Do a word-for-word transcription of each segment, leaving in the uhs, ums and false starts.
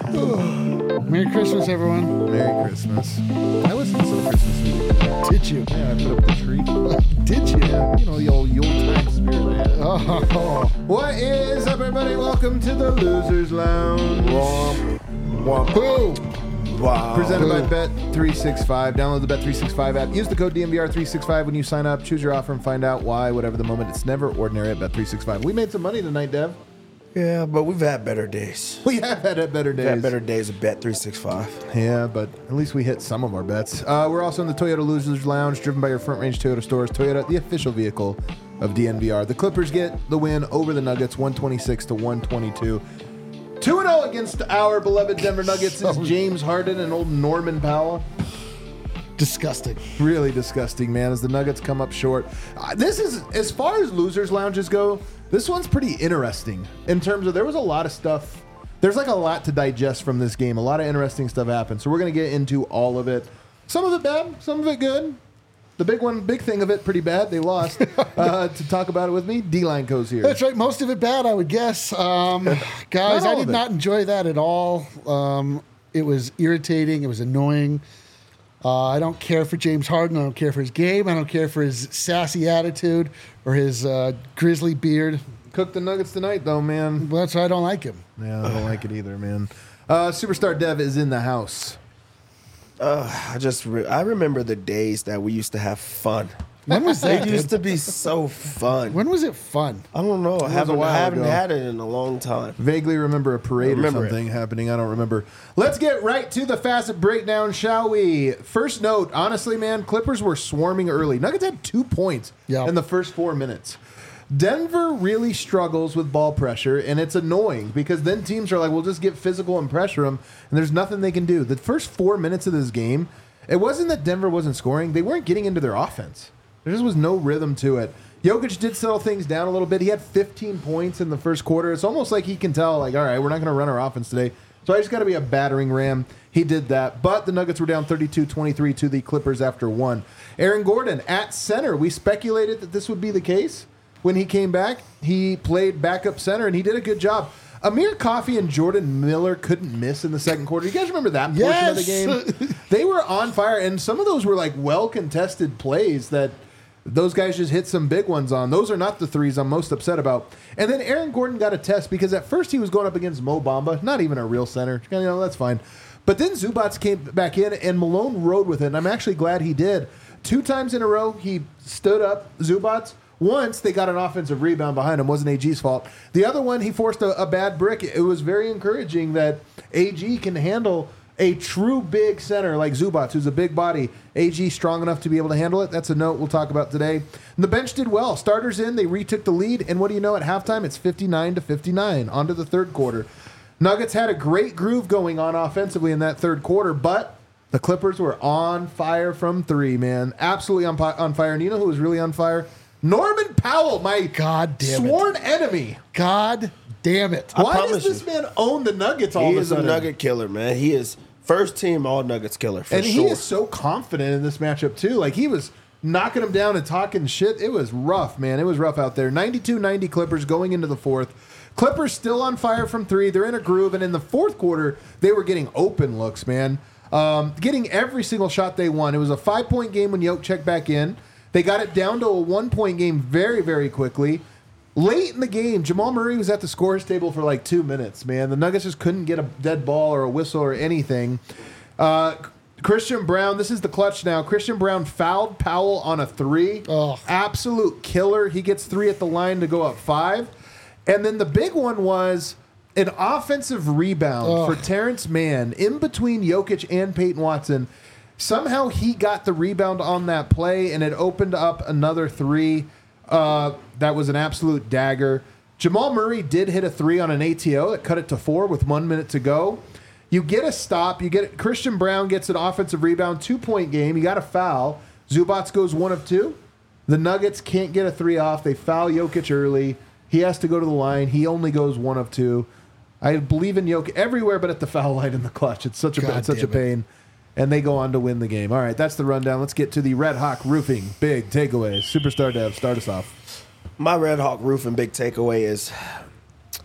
Merry Christmas, everyone. Merry Christmas. I listened to some Christmas music. Did you? Yeah, I put up the tree. Did you? Yeah, you know, the old Yuletide spirit I had. Oh. What is up, everybody? Welcome to the Losers Lounge. Womp. Womp. Boo. Wow. Presented Boo. by Bet three sixty-five. Download the Bet three sixty-five app. Use the code D M V R three sixty-five when you sign up. Choose your offer and find out why, whatever the moment. It's never ordinary at Bet three sixty-five. We made some money tonight, Dev. Yeah, but we've had better days. We have had it better days. We've had better days of Bet three sixty-five. Yeah, but at least we hit some of our bets. Uh, we're also in the Toyota Losers Lounge, driven by your Front Range Toyota stores. Toyota, the official vehicle of D N V R. The Clippers get the win over the Nuggets, one twenty-six to one twenty-two. two and oh against our beloved Denver Nuggets is James Harden and old Norman Powell. Disgusting. Really disgusting, man, as the Nuggets come up short. Uh, this is, as far as Losers Lounges go, this one's pretty interesting in terms of there was a lot of stuff. There's like a lot to digest from this game. A lot of interesting stuff happened. So we're going to get into all of it. Some of it bad, some of it good. The big one, big thing of it, pretty bad. They lost. Uh, to talk about it with me, D-Line Co's here. That's right. Most of it bad, I would guess. Um, guys, I all did of it. not enjoy that at all. Um, it was irritating. It was annoying. Uh, I don't care for James Harden. I don't care for his game. I don't care for his sassy attitude or his uh, grizzly beard. Cooked the Nuggets tonight, though, man. Well, that's why I don't like him. Yeah, I don't like it either, man. Uh, Superstar Dev is in the house. Uh, I just re- I remember the days that we used to have fun. When was that? It used dude? to be so fun. When was it fun? I don't know. I a haven't, while I haven't ago. had it in a long time. Vaguely remember a parade or Remember something happening. I don't remember. Let's get right to the facet breakdown, shall we? First note, honestly, man, Clippers were swarming early. Nuggets had two points Yeah. in the first four minutes. Denver really struggles with ball pressure, and it's annoying because then teams are like, we'll just get physical and pressure them, and there's nothing they can do. The first four minutes of this game, it wasn't that Denver wasn't scoring. They weren't getting into their offense. There just was no rhythm to it. Jokic did settle things down a little bit. He had fifteen points in the first quarter. It's almost like he can tell, like, all right, we're not going to run our offense today, so I just got to be a battering ram. He did that. But the Nuggets were down thirty-two twenty-three to the Clippers after one. Aaron Gordon at center. We speculated that this would be the case. When he came back, he played backup center, and he did a good job. Amir Coffey and Jordan Miller couldn't miss in the second quarter. You guys remember that portion Yes. of the game? They were on fire, and some of those were like well-contested plays that those guys just hit some big ones on. Those are not the threes I'm most upset about. And then Aaron Gordon got a test because at first he was going up against Mo Bamba, not even a real center. You know, that's fine. But then Zubats came back in, and Malone rode with it, and I'm actually glad he did. Two times in a row, he stood up Zubats. Once, they got an offensive rebound behind him. Wasn't A G's fault. The other one, he forced a, a bad brick. It was very encouraging that A G can handle a true big center like Zubats, who's a big body. A G strong enough to be able to handle it. That's a note we'll talk about today. And the bench did well. Starters in. They retook the lead. And what do you know? At halftime, it's fifty-nine to fifty-nine. On to the third quarter. Nuggets had a great groove going on offensively in that third quarter, but the Clippers were on fire from three, man. Absolutely on, on fire. And you know who was really on fire? Norman Powell, my God damn it. sworn enemy. God damn it. I Why does promise this you. man own the Nuggets all He of a is a sudden? Nugget killer, man. He is first team all Nuggets killer for and sure. he is so confident in this matchup, too. Like, he was knocking him down and talking shit. It was rough, man. It was rough out there. ninety-two ninety Clippers going into the fourth. Clippers still on fire from three. They're in a groove. And in the fourth quarter, they were getting open looks, man. Um, getting every single shot they won. It was a five-point game when Jokic checked back in. They got it down to a one-point game very, very quickly. Late in the game, Jamal Murray was at the scorer's table for like two minutes, man. The Nuggets just couldn't get a dead ball or a whistle or anything. Uh, Christian Brown, this is the clutch now. Christian Brown fouled Powell on a three. Ugh. Absolute killer. He gets three at the line to go up five. And then the big one was an offensive rebound Ugh. for Terrence Mann in between Jokic and Peyton Watson. Somehow he got the rebound on that play, and it opened up another three. Uh, that was an absolute dagger. Jamal Murray did hit a three on an A T O. It cut it to four with one minute to go. You get a stop. You get Christian Brown gets an offensive rebound, two-point game. You got a foul. Zubats goes one of two. The Nuggets can't get a three off. They foul Jokic early. He has to go to the line. He only goes one of two. I believe in Jokic everywhere but at the foul line in the clutch. It's such a, God it's such a damn it. pain. And they go on to win the game. All right, that's the rundown. Let's get to the Red Hawk Roofing Big Takeaways. Superstar Dev, start us off. My Red Hawk Roofing big takeaway is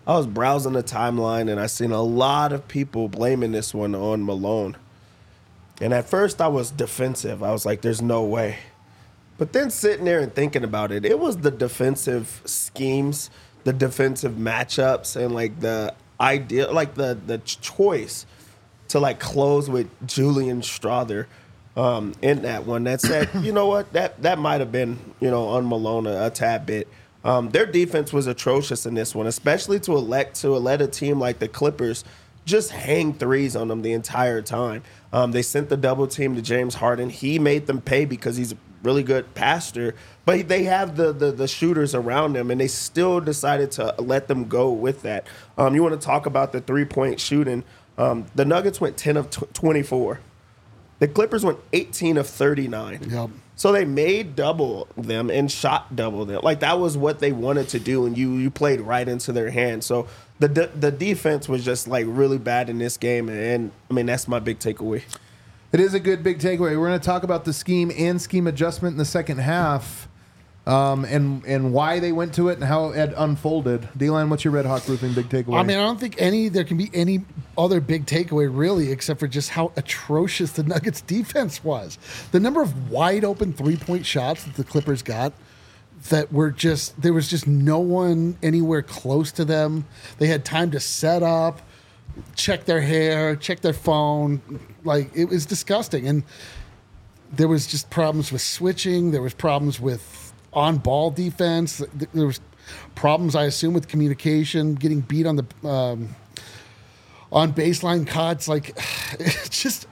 I was browsing the timeline and I seen a lot of people blaming this one on Malone. And at first I was defensive. I was like, there's no way. But then sitting there and thinking about it, it was the defensive schemes, the defensive matchups, and like the idea, like the the choice to like close with Julian Strawther um, in that one. That said, you know what, that that might have been, you know, on Malone a, a tad bit. Um, their defense was atrocious in this one, especially to elect to let a team like the Clippers just hang threes on them the entire time. Um, they sent the double team to James Harden. He made them pay because he's a really good passer, but they have the, the the shooters around them, and they still decided to let them go with that. Um, you want to talk about the three-point shooting. Um, the Nuggets went ten of twenty-four. The Clippers went eighteen of thirty-nine. Yep. So they made double them and shot double them. Like, that was what they wanted to do, and you you played right into their hands. So the the, the defense was just, like, really bad in this game, and, and, I mean, that's my big takeaway. It is a good big takeaway. We're going to talk about the scheme and scheme adjustment in the second half, um, and and why they went to it and how it unfolded. D-Line, what's your Red Hawk Roofing big takeaway? I mean, I don't think any there can be any other big takeaway really, except for just how atrocious the Nuggets defense was. The number of wide open three point shots that the Clippers got that were just there was just no one anywhere close to them. They had time to set up, check their hair, check their phone. Like, it was disgusting. And there was just problems with switching. There was problems with on-ball defense. There was problems, I assume, with communication, getting beat on the um, on baseline cuts. Like, it's just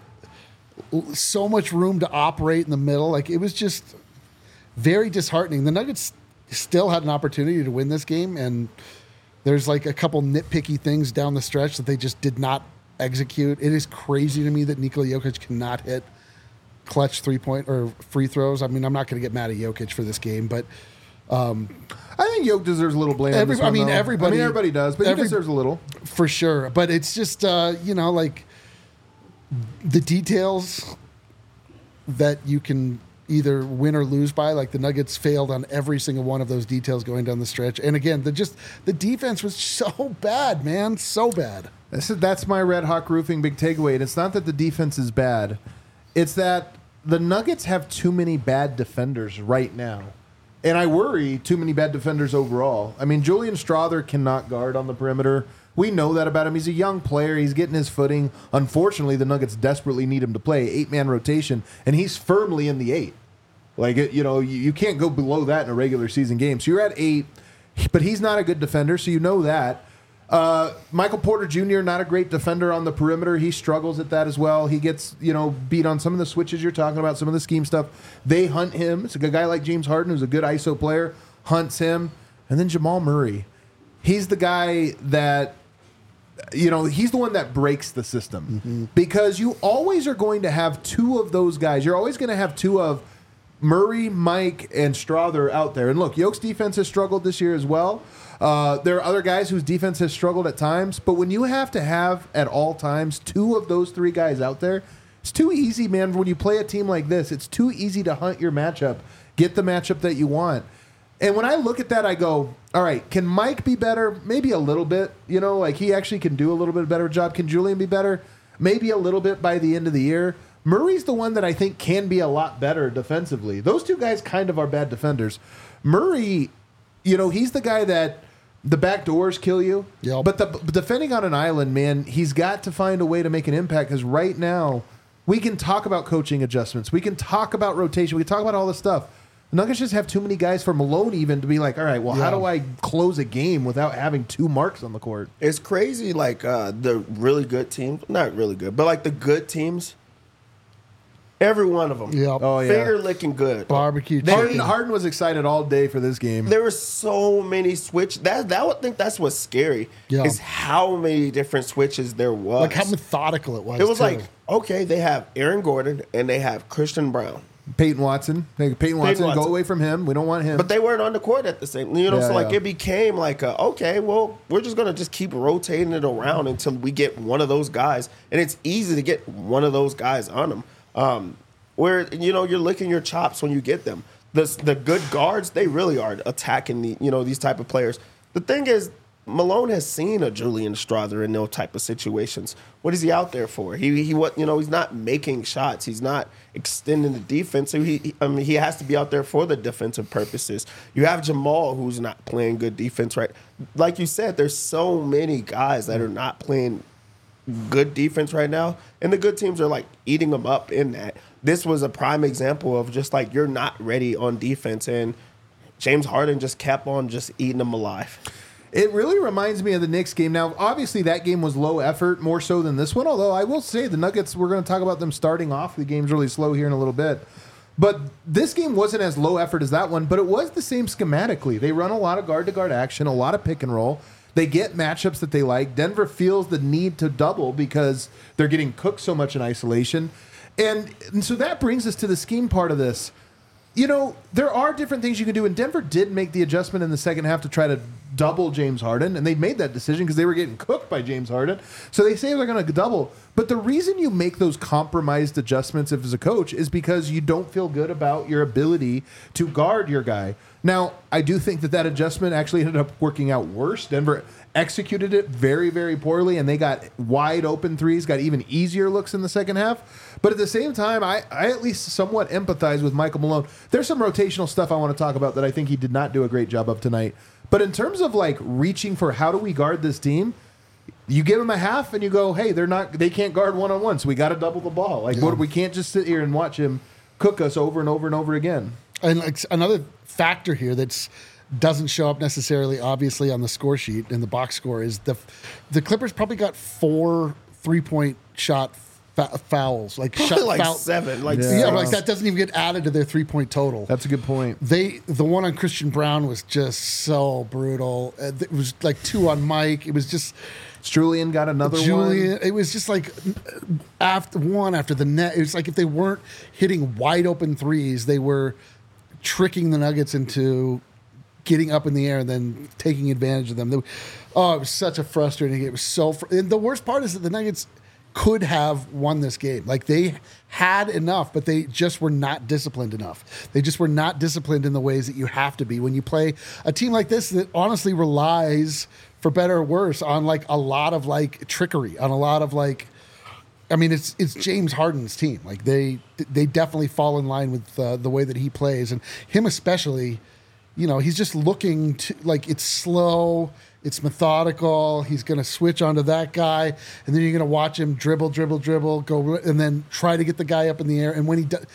so much room to operate in the middle. Like, it was just very disheartening. The Nuggets still had an opportunity to win this game, and there's like a couple nitpicky things down the stretch that they just did not execute. It is crazy to me that Nikola Jokic cannot hit clutch three-point or free throws. I mean, I'm not going to get mad at Jokic for this game, but um, I think Jokic deserves a little blame. Every, on this one, I mean, though. everybody. I mean, everybody does, but every, he deserves a little for sure. But it's just uh, you know, like the details that you can either win or lose by. Like, the Nuggets failed on every single one of those details going down the stretch. And again, the just the defense was so bad, man, so bad. This is, that's my Red Hawk Roofing big takeaway. And it's not that the defense is bad. It's that the Nuggets have too many bad defenders right now. And I worry too many bad defenders overall. I mean, Julian Strawther cannot guard on the perimeter. We know that about him. He's a young player. He's getting his footing. Unfortunately, the Nuggets desperately need him to play eight-man rotation, and he's firmly in the eight. Like, you know, you, you can't go below that in a regular season game. So you're at eight, but he's not a good defender, so you know that. Uh, Michael Porter Junior, not a great defender on the perimeter. He struggles at that as well. He gets, you know, beat on some of the switches you're talking about, some of the scheme stuff. They hunt him. It's a good guy like James Harden, who's a good I S O player, hunts him. And then Jamal Murray. He's the guy that, you know, he's the one that breaks the system. Mm-hmm. Because you always are going to have two of those guys. You're always going to have two of Murray, Mike, and Strawther out there. And look, Yoke's defense has struggled this year as well. Uh, there are other guys whose defense has struggled at times, but when you have to have at all times two of those three guys out there, it's too easy, man. When you play a team like this, it's too easy to hunt your matchup, get the matchup that you want. And when I look at that, I go, all right, can Mike be better? Maybe a little bit. You know, like, he actually can do a little bit better job. Can Julian be better? Maybe a little bit by the end of the year. Murray's the one that I think can be a lot better defensively. Those two guys kind of are bad defenders. Murray, you know, he's the guy that the back doors kill you. Yep. But the but defending on an island, man, he's got to find a way to make an impact, because right now we can talk about coaching adjustments. We can talk about rotation. We can talk about all this stuff. The Nuggets just have too many guys for Malone even to be like, all right, well, Yeah. how do I close a game without having two marks on the court? It's crazy, like, uh, the really good teams, not really good, but like the good teams, every one of them. Yep. Oh, yeah. Finger licking good. Barbecue They- Harden, chicken. Harden was excited all day for this game. There were so many switch. That that would think that's what's scary. Yeah. Is how many different switches there was. Like, how methodical it was. it was too. like, okay, they have Aaron Gordon and they have Christian Brown, Peyton Watson. Hey, Peyton Watson, Watson. go away from him. We don't want him. but they weren't on the court at the same. You know, Yeah, so like yeah. it became like, a, okay, well, we're just gonna just keep rotating it around until we get one of those guys, and it's easy to get one of those guys on them. Um, where, you know, you're licking your chops when you get them. The the good guards, they really are attacking the you know these type of players. The thing is, Malone has seen a Julian Strawther in those type of situations. What is he out there for? He he what you know he's not making shots. He's not extending the defense. So he, he I mean he has to be out there for the defensive purposes. You have Jamal who's not playing good defense, right? Like you said, there's so many guys that are not playing good defense right now, and the good teams are like eating them up in that. This was a prime example of just like you're not ready on defense, and James Harden just kept on just eating them alive. It really reminds me of the Knicks game. Now, obviously, that game was low effort, more so than this one. Although I will say the Nuggets, we're going to talk about them starting off. The game's really slow here in a little bit. But this game wasn't as low effort as that one, but it was the same schematically. They run a lot of guard-to-guard action, a lot of pick and roll. They get matchups that they like. Denver feels the need to double because they're getting cooked so much in isolation. And, and so that brings us to the scheme part of this. You know, there are different things you can do, and Denver did make the adjustment in the second half to try to double James Harden, and they made that decision because they were getting cooked by James Harden. So they say they're going to double. But the reason you make those compromised adjustments if as a coach is because you don't feel good about your ability to guard your guy. Now, I do think that that adjustment actually ended up working out worse. Denver executed it very, very poorly, and they got wide open threes, got even easier looks in the second half. But at the same time, I, I at least somewhat empathize with Michael Malone. There's some rotational stuff I want to talk about that I think he did not do a great job of tonight. But in terms of like reaching for how do we guard this team, you give them a half and you go, hey, they're not, they can't guard one on one, so we got to double the ball. Like, yeah. what, we can't just sit here and watch him cook us over and over and over again. And like another factor here that's doesn't show up necessarily obviously on the score sheet in the box score is the the Clippers probably got four three point shot fa- fouls, like shot like foul- seven, like yeah, yeah like that doesn't even get added to their three point total. That's a good point. They the one on Christian Brown was just so brutal. It was like two on Mike. It was just. Julian got another Julian, one. It was just like after one after the net. It was like if they weren't hitting wide open threes, they were tricking the Nuggets into getting up in the air and then taking advantage of them. They, oh, it was such a frustrating game. It was so. Fr- and the worst part is that the Nuggets could have won this game. Like they had enough, but they just were not disciplined enough. They just were not disciplined in the ways that you have to be when you play a team like this that honestly relies, for better or worse, on like a lot of like trickery, on a lot of like. I mean, it's it's James Harden's team. Like they they definitely fall in line with uh, the way that he plays, and him especially. You know, he's just looking to like it's slow, it's methodical. He's going to switch onto that guy, and then you're going to watch him dribble, dribble, dribble, go, and then try to get the guy up in the air. And when he does,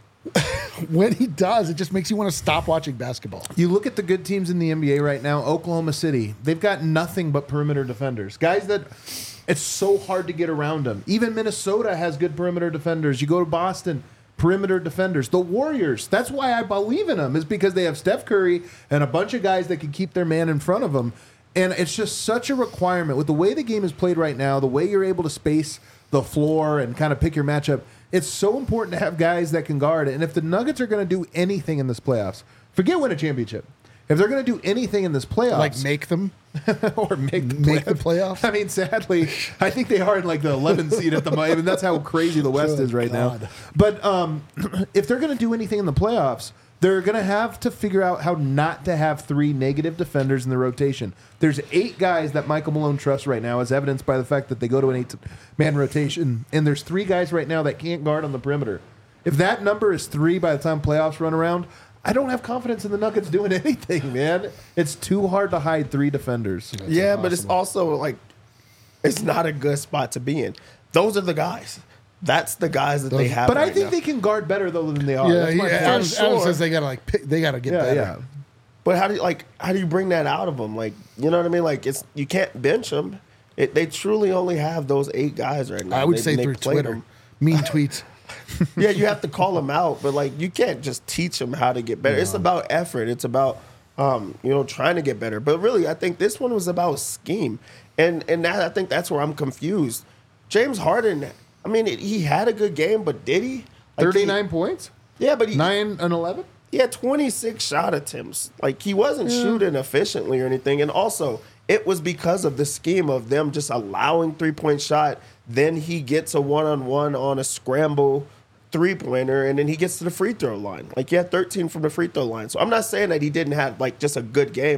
when he does, it just makes you want to stop watching basketball. You look at the good teams in the N B A right now. Oklahoma City, they've got nothing but perimeter defenders, guys that. It's so hard to get around them. Even Minnesota has good perimeter defenders. You go to Boston, perimeter defenders. The Warriors, that's why I believe in them, is because they have Steph Curry and a bunch of guys that can keep their man in front of them. And it's just such a requirement. With the way the game is played right now, the way you're able to space the floor and kind of pick your matchup, it's so important to have guys that can guard. And if the Nuggets are going to do anything in this playoffs, forget win a championship. If they're going to do anything in this playoffs, Like make them or make the, make play- the playoffs. I mean, sadly, I think they are in like the eleventh seed at the moment. I mean, that's how crazy the West Good is right God. now. But um, if they're going to do anything in the playoffs, they're going to have to figure out how not to have three negative defenders in the rotation. There's eight guys that Michael Malone trusts right now, as evidenced by the fact that they go to an eight-man rotation, and there's three guys right now that can't guard on the perimeter. If that number is three by the time playoffs run around, I don't have confidence in the Nuggets doing anything, man. It's too hard to hide three defenders. That's yeah, impossible. But it's also like it's not a good spot to be in. Those are the guys. That's the guys that Those, they have. But right I think now. they can guard better though than they are. Yeah, That's my yeah. point. Adam, sure. Adam says they gotta like pick, they gotta get Yeah, better. yeah. But how do you like how do you bring that out of them? Like, you know what I mean? Like it's you can't bench them. It, they truly only have those eight guys right now. I would they, say they through play Twitter, them. mean tweets. Yeah, you have to call them out, but like you can't just teach them how to get better. No. It's about effort. It's about um, you know trying to get better. But really, I think this one was about scheme, and and that, I think that's where I'm confused. James Harden, I mean, it, he had a good game, but did he? Like thirty-nine he, points. Yeah, but he nine and eleven. He had twenty-six shot attempts. Like he wasn't yeah. shooting efficiently or anything, and also it was because of the scheme of them just allowing three-point shot. Then he gets a one-on-one on a scramble three-pointer, and then he gets to the free throw line. Like, he had thirteen from the free throw line. So I'm not saying that he didn't have, like, just a good game, but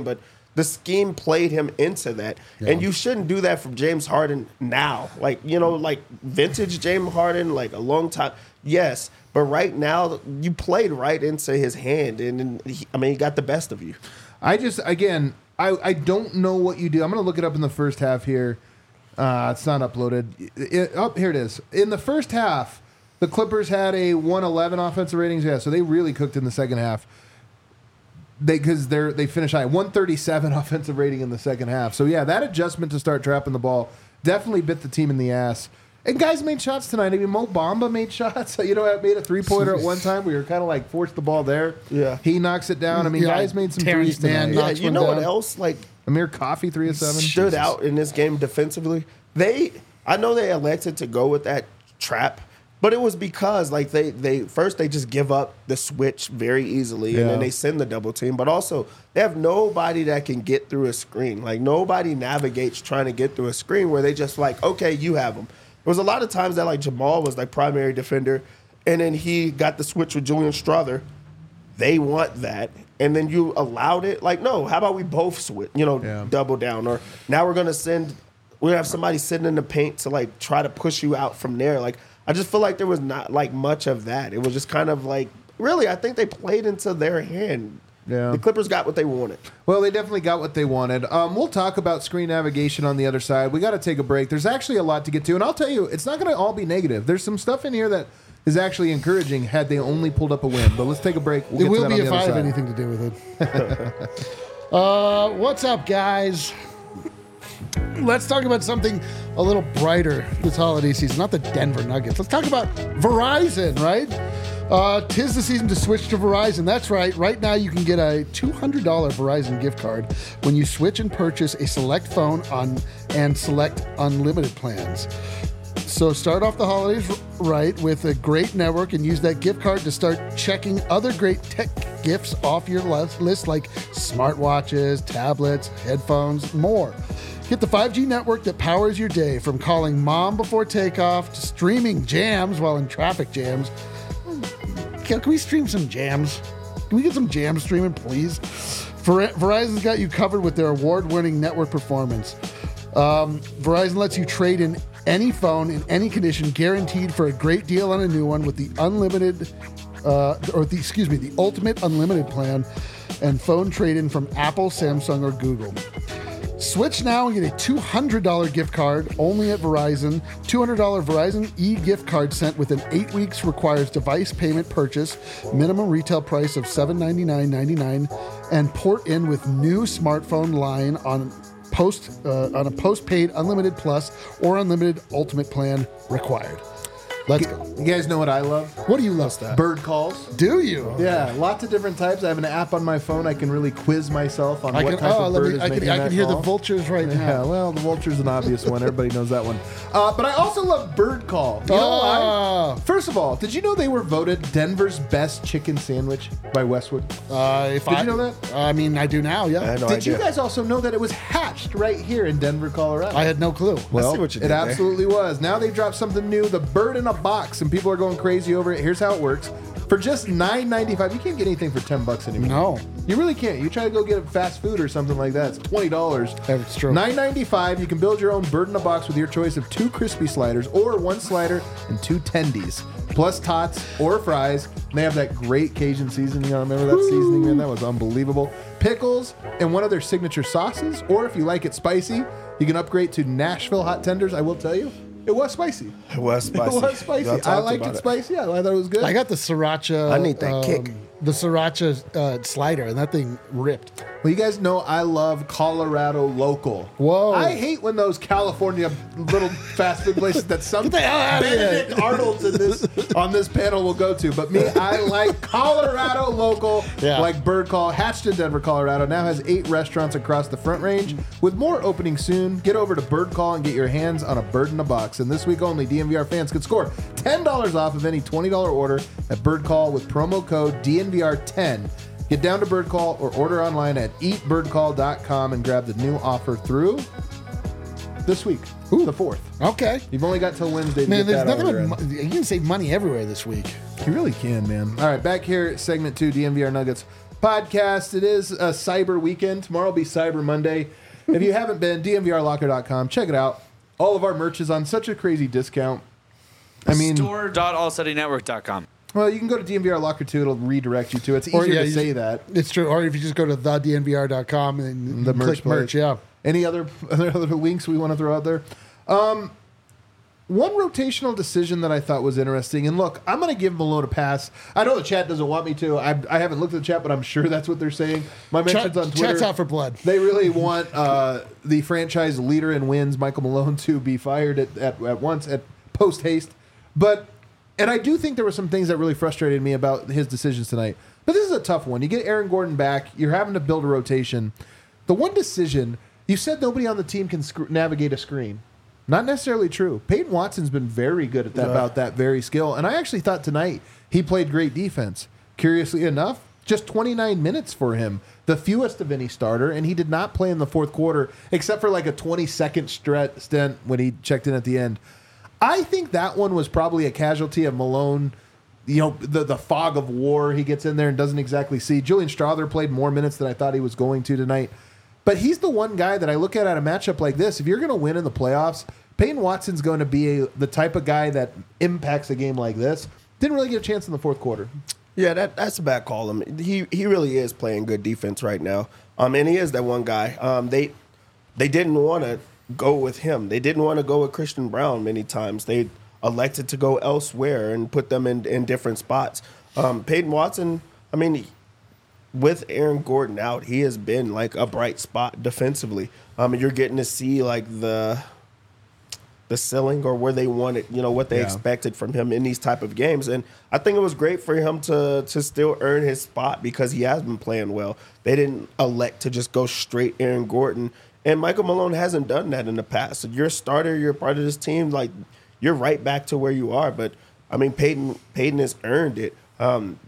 the scheme played him into that. Yeah. And you shouldn't do that from James Harden now. Like, you know, like vintage James Harden, like a long time. Yes, but right now you played right into his hand. And, and he, I mean, he got the best of you. I just, again, I, I don't know what you do. I'm going to look it up in the first half here. Uh, it's not uploaded. It, oh, here it is. In the first half, the Clippers had a one eleven offensive ratings. Yeah, so they really cooked in the second half. They because they're they finished high one thirty-seven offensive rating in the second half. So yeah, that adjustment to start trapping the ball definitely bit the team in the ass. And guys made shots tonight. I mean, Mo Bamba made shots. You know, made a three pointer at one time. We were kind of like forced the ball there. Yeah, he knocks it down. I mean, Yeah, guys made some Terrence threes tonight. Mann Yeah, knocks you one know down. what else? Like Amir Coffey, three of seven. stood Jesus. out in this game defensively. They, I know they elected to go with that trap, but it was because like they, they first they just give up the switch very easily, Yeah. and then they send the double team. But also they have nobody that can get through a screen. Like nobody navigates trying to get through a screen where they just like, okay, you have them. There was a lot of times that like Jamal was like primary defender, and then he got the switch with Julian Strother. They want that. And then you allowed it. Like, no, how about we both switch, you know, Yeah. double down. Or now we're going to send, we're going to have somebody sitting in the paint to, like, try to push you out from there. Like, I just feel like there was not, like, much of that. It was just kind of like, really, I think they played into their hand. Yeah. The Clippers got what they wanted. Well, they definitely got what they wanted. Um, we'll talk about screen navigation on the other side. We got to take a break. There's actually a lot to get to. And I'll tell you, it's not going to all be negative. There's some stuff in here that is actually encouraging had they only pulled up a win. But let's take a break. We'll It get to will that be on if the I other have side. anything to do with it. uh, what's up, guys? Let's talk about something a little brighter this holiday season. Not the Denver Nuggets. Let's talk about Verizon, right? Uh, tis the season to switch to Verizon. That's right. Right now, you can get a two hundred dollars Verizon gift card when you switch and purchase a select phone on and select unlimited plans. So start off the holidays right with a great network and use that gift card to start checking other great tech gifts off your list like smartwatches, tablets, headphones, more. Get the five G network that powers your day, from calling mom before takeoff to streaming jams while in traffic jams. Can, can we stream some jams? Can we get some jam streaming, please? Ver- Verizon's got you covered with their award-winning network performance. Um, Verizon lets you trade in any phone in any condition, guaranteed for a great deal on a new one with the unlimited, uh, or the excuse me, the ultimate unlimited plan, and phone trade-in from Apple, Samsung, or Google. Switch now and get a two hundred dollars gift card only at Verizon. two hundred dollars Verizon e-gift card sent within eight weeks requires device payment purchase, minimum retail price of seven hundred ninety-nine dollars and ninety-nine cents, and port in with new smartphone line on post uh, on a postpaid unlimited plus or unlimited ultimate plan required. Let's go. You guys know what I love? What do you love? That? Bird calls. Do you? Yeah, lots of different types. I have an app on my phone. I can really quiz myself on I what can. type Oh, of let bird me. is I can. making I that can hear the call. vultures right Yeah, now. well, the vulture's an obvious one. Everybody knows that one. Uh, but I also love Bird Call. You know Oh. why? First of all, did you know they were voted Denver's best chicken sandwich by Westwood? Uh, if Did I, you know that? I mean, I do now. Yeah. I had no did idea. you guys also know that it was hatched right here in Denver, Colorado? I had no clue. Well, see what you it did there. absolutely was. Now they dropped something new, the bird in a box, and people are going crazy over it. Here's how it works. For just nine ninety-five, you can't get anything for ten bucks anymore. No. You really can't. You try to go get fast food or something like that, it's twenty dollars. That's true. nine ninety-five, you can build your own bird in a box with your choice of two crispy sliders or one slider and two tendies, plus tots or fries. And they have that great Cajun seasoning. I remember that seasoning, man. That was unbelievable. Pickles and one of their signature sauces, or if you like it spicy, you can upgrade to Nashville hot tenders. I will tell you, it was spicy. It was spicy. It was spicy. Y'all I talked liked about it spicy. I thought it was good. I got the sriracha. I need that kick. The sriracha uh, slider, and that thing ripped. Well, you guys know I love Colorado local. Whoa. I hate when those California little fast food places that some Get the hell outta here. Benedict Arnold's in this on this panel will go to. But me, I like Colorado local, Yeah. like Bird Call. Hatched in Denver, Colorado, now has eight restaurants across the Front Range, with more opening soon. Get over to Bird Call and get your hands on a bird in a box. And this week only, D N V R fans could score ten dollars off of any twenty dollars order at Bird Call with promo code D N V R ten. Get down to Bird Call or order online at eat bird call dot com and grab the new offer through this week, Ooh. the fourth. Okay. You've only got till Wednesday to Man, get there's that nothing order but in. mo- you can save money everywhere this week. You really can, man. All right, back here, segment two, D N V R Nuggets. podcast. It is a Cyber Weekend. Tomorrow will be Cyber Monday. If you haven't been, D N V R locker dot com, check it out. All of our merch is on such a crazy discount. I mean, store dot all study network dot com. Well, you can go to D N V R Locker too. It'll redirect you to it. It's easier Or, yeah, to you say just- that. It's true. Or if you just go to the D N V R dot com and The you merch click merch, place. yeah. Any other other, other links we want to throw out there? Um, one rotational decision that I thought was interesting, and look, I'm going to give Malone a pass. I know the chat doesn't want me to. I, I haven't looked at the chat, but I'm sure that's what they're saying. My mentions Chat, on Twitter. chat's out for blood. They really want uh, the franchise leader in wins, Michael Malone, to be fired at, at, at once, at post haste. But, and I do think there were some things that really frustrated me about his decisions tonight. But this is a tough one. You get Aaron Gordon back. You're having to build a rotation. The one decision, you said nobody on the team can sc- navigate a screen. Not necessarily true. Peyton Watson's been very good at that, Yeah. about that very skill. And I actually thought tonight he played great defense. Curiously enough, just twenty-nine minutes for him, the fewest of any starter, and he did not play in the fourth quarter except for like a twenty-second stret- stint when he checked in at the end. I think that one was probably a casualty of Malone. You know, the the fog of war, he gets in there and doesn't exactly see. Julian Strother played more minutes than I thought he was going to tonight. But he's the one guy that I look at at a matchup like this. If you're going to win in the playoffs, Peyton Watson's going to be a, the type of guy that impacts a game like this. Didn't really get a chance in the fourth quarter. Yeah, that that's a bad call. Him. He he really is playing good defense right now. Um, and he is that one guy. Um, they they didn't want to go with him. They didn't want to go with Christian Brown many times. They elected to go elsewhere and put them in in different spots. Um, Peyton Watson, I mean, he, with Aaron Gordon out, he has been like a bright spot defensively. Um, and you're getting to see like the the ceiling or where they wanted, you know, what they Yeah. expected from him in these type of games. And I think it was great for him to to still earn his spot because he has been playing well. They didn't elect to just go straight Aaron Gordon. And Michael Malone hasn't done that in the past. So you're a starter, you're a part of this team, like you're right back to where you are. But I mean, Peyton Peyton has earned it. Um,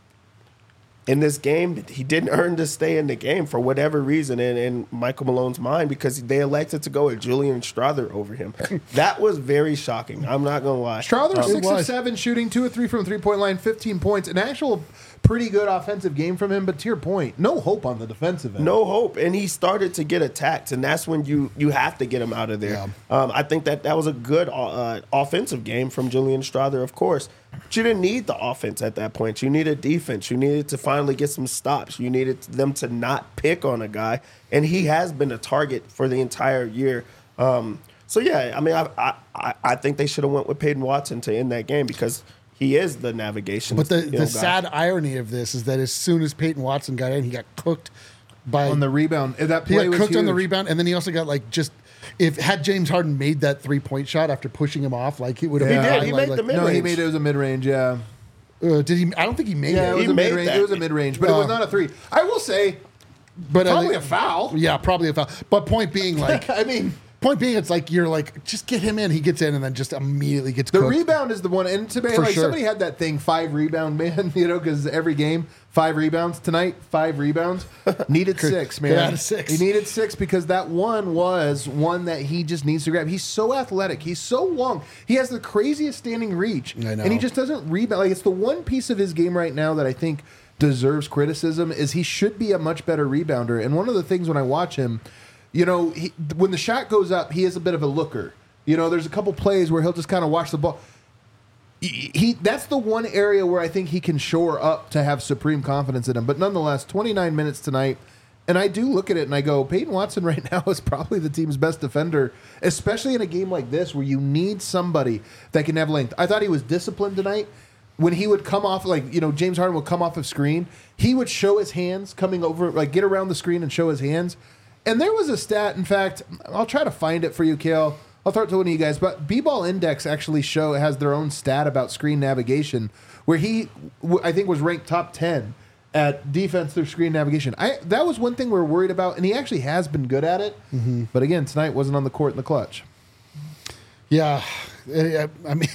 in this game, he didn't earn to stay in the game for whatever reason in, in Michael Malone's mind because they elected to go with Julian Strother over him. That was very shocking. I'm not going to lie. Strother, Um, six of was. seven shooting, two of three from the three-point line, fifteen points. An actual pretty good offensive game from him, but to your point, no hope on the defensive end. No hope, and he started to get attacked, and that's when you you have to get him out of there. Yeah. Um, I think that that was a good uh, offensive game from Julian Strother, of course. But you didn't need the offense at that point. You needed defense. You needed to finally get some stops. You needed them to not pick on a guy, and he has been a target for the entire year. Um, so yeah, I mean, I I, I think they should have went with Peyton Watson to end that game because he is the navigation. But the, you know, the guy. sad irony of this is that as soon as Peyton Watson got in, he got cooked by On the rebound. That he play got was cooked on the huge. rebound, and then he also got like just if had James Harden made that three point shot after pushing him off, like he would have. He been did. fine, He like- made the like- mid- No, he mid-range. made it was a mid-range, yeah. Uh, did he? I don't think he made Yeah, it it. was He a made mid-range. that. It was a mid-range, but it was Uh, not a three. I will say, but I probably think- a foul. Yeah, probably a foul. But point being, like, I mean, point being, it's like you're like, just get him in. He gets in and then just immediately gets the cooked. rebound is the one. And to me, For like sure. somebody had that thing, five rebound man, you know, because every game, five rebounds. Tonight, five rebounds. Needed six, man. get out of six. He needed six because that one was one that he just needs to grab. He's so athletic. He's so long. He has the craziest standing reach. I know. And he just doesn't rebound. Like, it's the one piece of his game right now that I think deserves criticism is he should be a much better rebounder. And one of the things when I watch him, you know, he, when the shot goes up, he is a bit of a looker. You know, there's a couple plays where he'll just kind of watch the ball. He, he that's the one area where I think he can shore up to have supreme confidence in him. But nonetheless, twenty-nine minutes tonight, and I do look at it and I go, Peyton Watson right now is probably the team's best defender, especially in a game like this where you need somebody that can have length. I thought he was disciplined tonight. When he would come off, like, you know, James Harden would come off of screen, he would show his hands coming over, like get around the screen and show his hands. And there was a stat, in fact, I'll try to find it for you, Kale. I'll throw it to one of you guys. But B-Ball Index actually show has their own stat about screen navigation, where he, w- I think, was ranked top ten at defense through screen navigation. I That was one thing we were worried about, and he actually has been good at it. Mm-hmm. But again, tonight wasn't on the court in the clutch. Yeah, I I mean,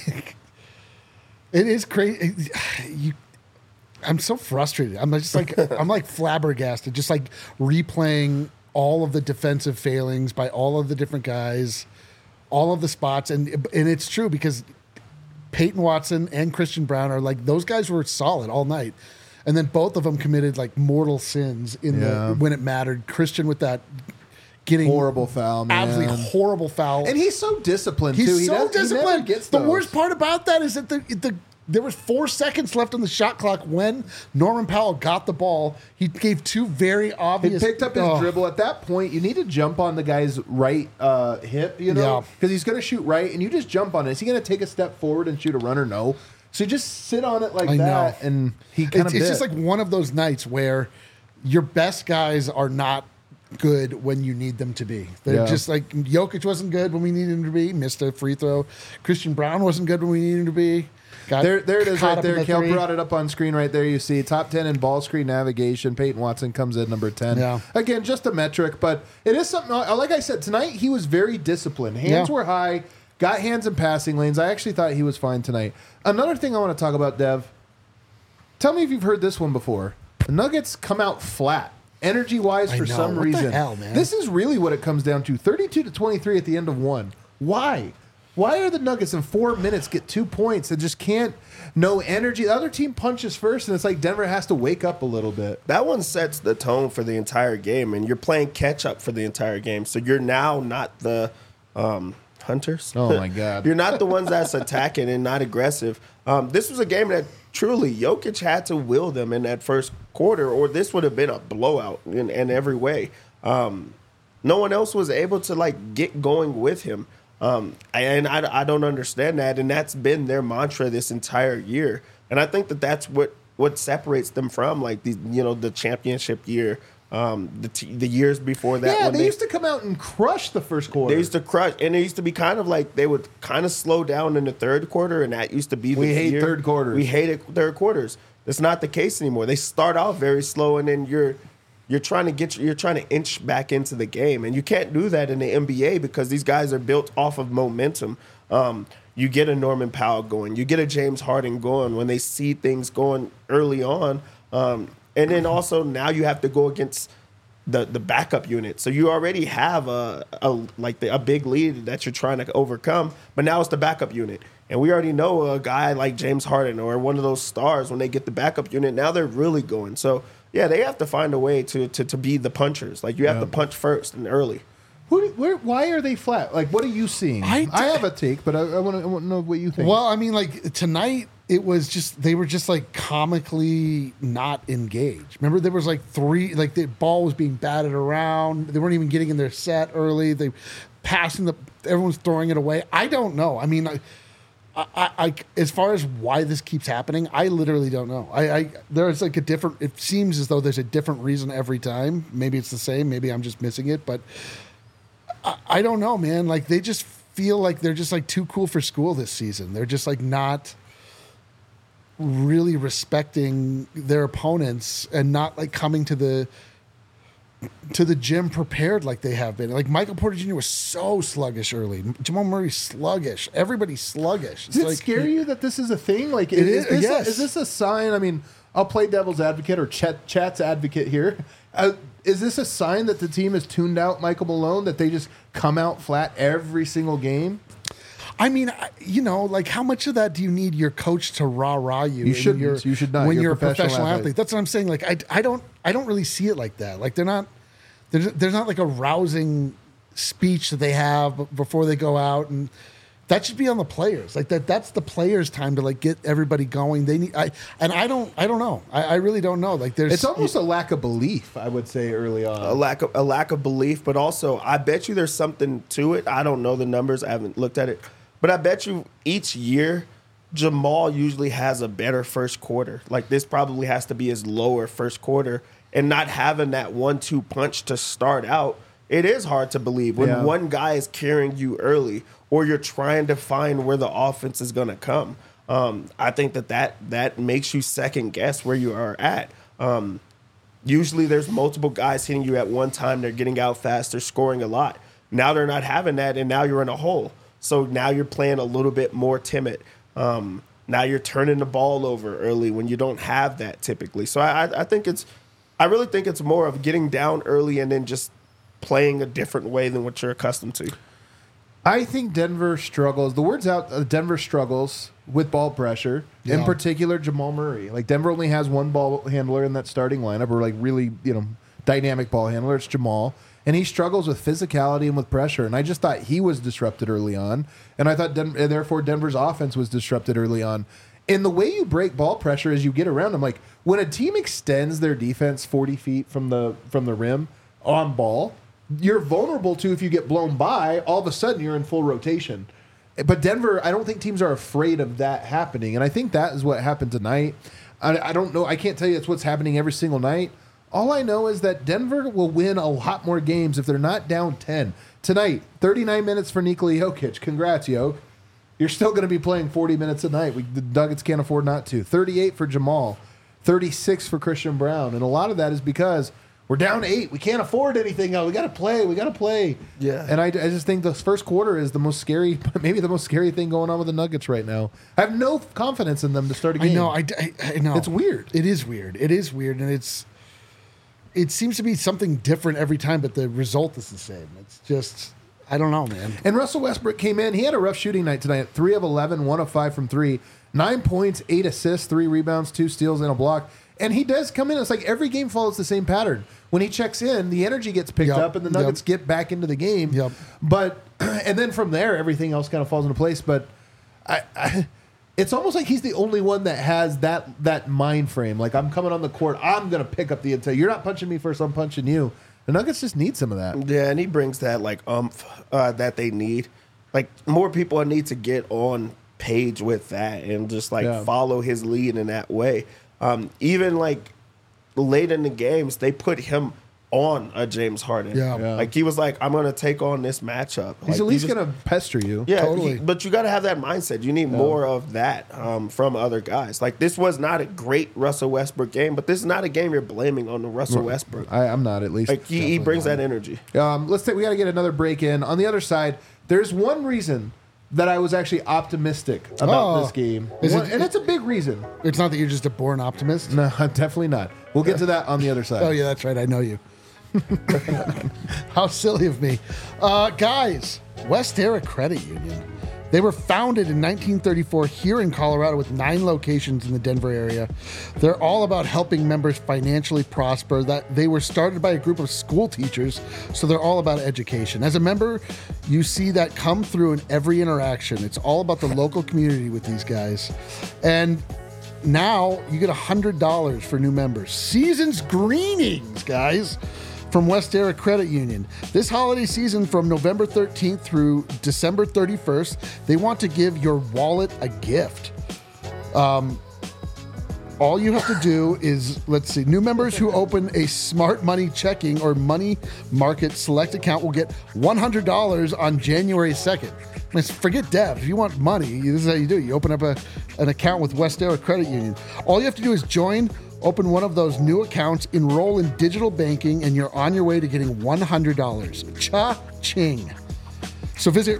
it is crazy. You, I'm so frustrated. I'm just like I'm like flabbergasted, just like replaying all of the defensive failings by all of the different guys, all of the spots, and and it's true because Peyton Watson and Christian Brown are like those guys were solid all night. and then both of them committed like mortal sins in Yeah. the when it mattered. Christian with that getting Horrible foul, man. absolutely horrible foul. And he's so disciplined, He's too. He so does, he never disciplined. gets The those. worst part about that is that the the there was four seconds left on the shot clock when Norman Powell got the ball. He gave two very He obvious. picked up his oh. dribble. At that point, you need to jump on the guy's right uh, hip, you know, Yeah. because he's going to shoot right, and you just jump on it. Is he going to take a step forward and shoot a runner? No. So you just sit on it like I that, know. and he kind It's, of. it's just like one of those nights where your best guys are not good when you need them to be. They're Yeah. just like Jokic wasn't good when we needed him to be. Missed a free throw. Christian Brown wasn't good when we needed him to be. Got There, there it is caught right up in there. the Kel three. brought it up on screen right there. You see top ten in ball screen navigation. Peyton Watson comes in number ten. Yeah. Again, just a metric, but it is something. Like I said, tonight he was very disciplined. Hands Yeah. were high, got hands in passing lanes. I actually thought he was fine tonight. Another thing I want to talk about, Dev. Tell me if you've heard this one before. The Nuggets come out flat. Energy wise, I for know. some What the reason. hell, man? This is really what it comes down to. thirty-two to twenty-three at the end of one. Why? Why are the Nuggets in four minutes get two points and just can't, no energy? The other team punches first, and it's like Denver has to wake up a little bit. That one sets the tone for the entire game, and you're playing catch up for the entire game. So you're now not the um, hunters. Oh, my God. You're not the ones that's attacking and not aggressive. Um, this was a game that truly Jokic had to will them in that first quarter, or this would have been a blowout in, in every way. Um, no one else was able to like get going with him. Um, and I, I don't understand that, and that's been their mantra this entire year. And I think that that's what, what separates them from like the you know the championship year, um, the t- the years before that. Yeah, when they, used to come out and crush the first quarter. They used to crush, and it used to be kind of like they would kind of slow down in the third quarter, and that used to be the We hate year. third quarters. We hated third quarters. That's not the case anymore. They start off very slow, and then you're you're trying to get you're trying to inch back into the game, and you can't do that in the N B A because these guys are built off of momentum. Um, you get a Norman Powell going, you get a James Harden going when they see things going early on, um, and then also now you have to go against the the backup unit. So you already have a, a like the, a big lead that you're trying to overcome, but now it's the backup unit. And we already know a guy like James Harden or one of those stars, when they get the backup unit, now they're really going. So yeah, they have to find a way to to, to be the punchers. Like you have Yeah. to punch first and early. Who, where, why are they flat? Like, what are you seeing? I I, d- have a take, but I, I want to know what you think. Well, I mean, like tonight, it was just they were just like comically not engaged. Remember, there was like three, like the ball was being batted around. They weren't even getting in their set early. They passing the, everyone's throwing it away. I don't know. I mean, I, I, I as far as why this keeps happening, I literally don't know. I, I there's like a different. It seems as though there's a different reason every time. Maybe it's the same. Maybe I'm just missing it, but. I, I don't know, man. Like they just feel like they're just like too cool for school this season. They're just like not really respecting their opponents and not like coming to the to the gym prepared like they have been. Like Michael Porter Junior was so sluggish early. Jamal Murray sluggish. Everybody's sluggish. Does it like, scare you that this is a thing? Like, It is, is, this yes. a, is this a sign? I mean, I'll play devil's advocate or chat, chat's advocate here. Uh, is this a sign that the team has tuned out Michael Malone, that they just come out flat every single game? I mean, I- you know, like how much of that do you need your coach to rah rah you? You when shouldn't. you're- You should not. When You're you're, a a professional, professional athlete. athlete. That's what I'm saying. Like I, I don't, I don't really see it like that. Like they're not, there's, there's not like a rousing speech that they have b- before they go out, and that should be on the players. Like that, that's the players' time to like get everybody going. They need, I, and I don't, I don't know. I, I really don't know. Like there's, It's almost a lack of belief, I would say, early A on. lack of a lack of belief, but also I bet you there's something to it. I don't know the numbers. I haven't looked at it, but I bet you each year Jamal usually has a better first quarter. Like this probably has to be his lower first quarter, and not having that one two punch to start out, it is hard to believe when Yeah. one guy is carrying you early, or you're trying to find where the offense is going to come. Um, I think that, that that makes you second guess where you are at. Um, usually there's multiple guys hitting you at one time. They're getting out fast. They're scoring a lot. Now they're not having that, and now you're in a hole. So now you're playing a little bit more timid. Um, now you're turning the ball over early when you don't have that typically. So I, I think it's, I really think it's more of getting down early and then just playing a different way than what you're accustomed to. I think Denver struggles. The word's out. Uh, Denver struggles with ball pressure. In Yeah. particular, Jamal Murray. Like Denver only has one ball handler in that starting lineup, or like really, you know, dynamic ball handler. It's Jamal, and he struggles with physicality and with pressure. And I just thought he was disrupted early on, and I thought, Den- and therefore, Denver's offense was disrupted early on. And the way you break ball pressure is you get around them. Like when a team extends their defense forty feet from the from the rim on ball, you're vulnerable to if you get blown by. All of a sudden, you're in full rotation. But Denver, I don't think teams are afraid of that happening, and I think that is what happened tonight. I, I don't know. I can't tell you it's what's happening every single night. All I know is that Denver will win a lot more games if they're not down ten tonight. thirty-nine minutes for Nikola Jokic. Congrats, Jokic. You're still going to be playing forty minutes a night. We, the Nuggets can't afford not to. thirty-eight for Jamal, thirty-six for Christian Brown, and a lot of that is because we're down eight. We can't afford anything else. We got to play. We got to play. Yeah. And I, I just think the first quarter is the most scary, maybe the most scary thing going on with the Nuggets right now. I have no confidence in them to start a game. I know. I, I, I know. It's weird. It is weird. It is weird, and it's it seems to be something different every time, but the result is the same. It's just I don't know, man. And Russell Westbrook came in. He had a rough shooting night tonight. three of eleven, one of five from three. Nine points, eight assists, three rebounds, two steals, and a block. And he does come in. It's like every game follows the same pattern. When he checks in, the energy gets picked Yep. up and the Nuggets Yep. get back into the game. Yep. But, and then from there, everything else kind of falls into place. But I, I, it's almost like he's the only one that has that that mind frame. Like, I'm coming on the court. I'm going to pick up the intel. You're not punching me first. I'm punching you. The Nuggets just need some of that. Yeah, and he brings that like umph uh, that they need. Like more people need to get on page with that and just like Yeah. follow his lead in that way. Um, even like late in the games, they put him on a James Harden. Yeah. Yeah. Like he was like, I'm gonna take on this matchup. He's Like, at least he just- going to pester you. Yeah, Totally. he- but you got to have that mindset. You need more of that um, from other guys. Like this was not a great Russell Westbrook game, but this is not a game you're blaming on the Russell Westbrook. I, I'm not, at least. Like he, he brings that energy. Um, let's take. We got to get another break in. On the other side, there's one reason that I was actually optimistic about Oh. this game, Is One- it- and it's a big reason. It's not that you're just a born optimist. No, definitely not. We'll get to that on the other side. Oh yeah, that's right. I know you. How silly of me, uh, guys. Westera Credit Union. They were founded in nineteen thirty-four here in Colorado with nine locations in the Denver area. They're all about helping members financially prosper. That they were started by a group of school teachers, so they're all about education. As a member, you see that come through in every interaction. It's all about the local community with these guys. And now you get one hundred dollars for new members. Season's Greenings, guys, from Westera Credit Union. This holiday season from November thirteenth through December thirty-first, they want to give your wallet a gift. Um, all you have to do is, let's see, new members who open a Smart Money checking or money market select account will get one hundred dollars on January second. I mean, forget debt. If you want money, this is how you do it. You open up a, an account with Westera Credit Union. All you have to do is join, open one of those new accounts, enroll in digital banking, and you're on your way to getting one hundred dollars. Cha-ching. So visit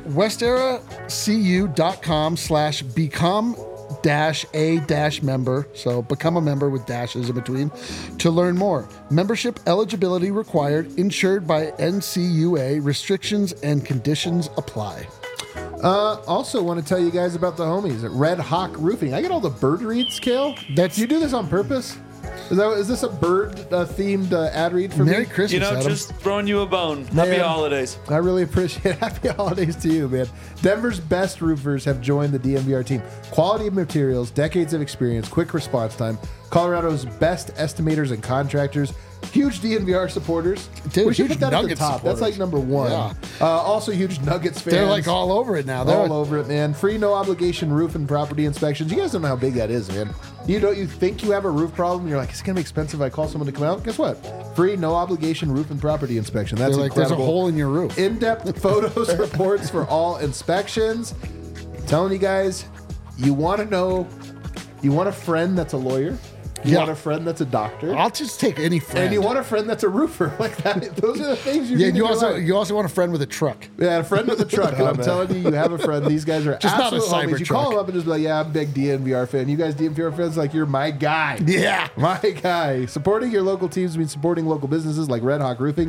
westeracu.com slash become dash a dash member. So become a member with dashes in between to learn more. Membership eligibility required, insured by N C U A. Restrictions and conditions apply. Uh, also, want to tell you guys about the homies at Red Hawk Roofing. I get all the bird reads, Kale. That's- you do this on purpose. Is that is this a bird uh, themed uh, ad read for Merry me? Christmas, You know, Adam. just throwing you a bone. Happy Man. holidays. I really appreciate it. Happy holidays to you, man. Denver's best roofers have joined the D M V R team. Quality of materials, decades of experience, quick response time. Colorado's best estimators and contractors. Huge D N V R supporters. Dude, we should huge put that at the Nuggets top. That's supporters. like number one. Yeah. Uh, also, huge Nuggets fans. They're like all over it now. They're all over it, man. Free, no obligation roof and property inspections. You guys don't know how big that is, man. You don't. You think you have a roof problem? You're like, it's gonna be expensive if I call someone to come out. Guess what? Free, no obligation roof and property inspection. That's They're like, there's a incredible. hole in your roof. In-depth photos, reports for all inspections. I'm telling you guys, you want to know, you want a friend that's a lawyer. You Yeah. want a friend that's a doctor. I'll just take any friend. And you want a friend that's a roofer. Like that. Those are the things you yeah, need you in your also life. you also want a friend with a truck. Yeah, a friend with a truck. And Oh, I'm man. telling you, you have a friend. These guys are Just not a absolute homies. You Cybertruck. call them up and just be like, yeah, I'm a big D N V R fan. You guys D N V R fans, like, you're my guy. Yeah. My guy. Supporting your local teams means supporting local businesses like Red Hawk Roofing.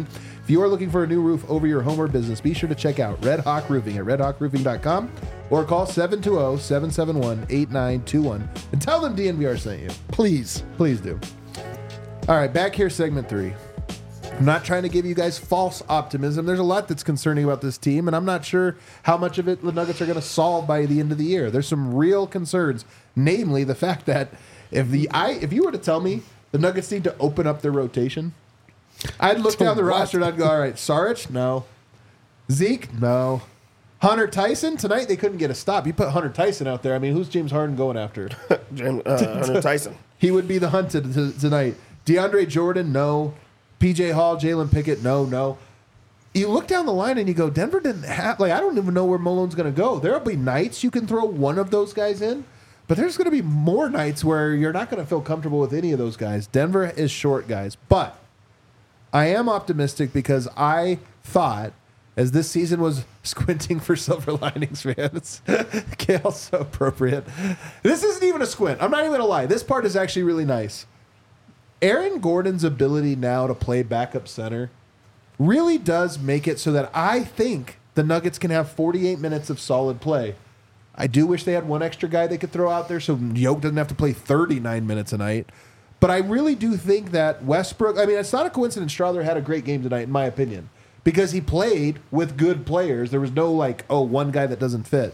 If you are looking for a new roof over your home or business, be sure to check out Red Hawk Roofing at red hawk roofing dot com or call seven two zero, seven seven one, eight nine two one and tell them D N V R sent you. Please. Please do. All right, back here, segment three. I'm not trying to give you guys false optimism. There's a lot that's concerning about this team, and I'm not sure how much of it the Nuggets are going to solve by the end of the year. There's some real concerns, namely the fact that if the I if you were to tell me the Nuggets need to open up their rotation, I'd look To down the what? roster and I'd go, all right, Saric, no. Zeke, no. Hunter Tyson, tonight they couldn't get a stop. You put Hunter Tyson out there. I mean, who's James Harden going after? Jim, uh, Hunter Tyson. He would be the hunted t- tonight. DeAndre Jordan, no. P J Hall, Jalen Pickett, no, no. You look down the line and you go, Denver didn't have, like, I don't even know where Malone's going to go. There'll be nights you can throw one of those guys in, but there's going to be more nights where you're not going to feel comfortable with any of those guys. Denver is short guys, but I am optimistic because I thought, as this season was squinting for Silver Linings fans, Kale's so appropriate. This isn't even a squint. I'm not even going to lie. This part is actually really nice. Aaron Gordon's ability now to play backup center really does make it so that I think the Nuggets can have forty-eight minutes of solid play. I do wish they had one extra guy they could throw out there so Yoke doesn't have to play thirty-nine minutes a night. But I really do think that Westbrook, I mean, it's not a coincidence Strawther had a great game tonight, in my opinion, because he played with good players. There was no, like, oh, one guy that doesn't fit.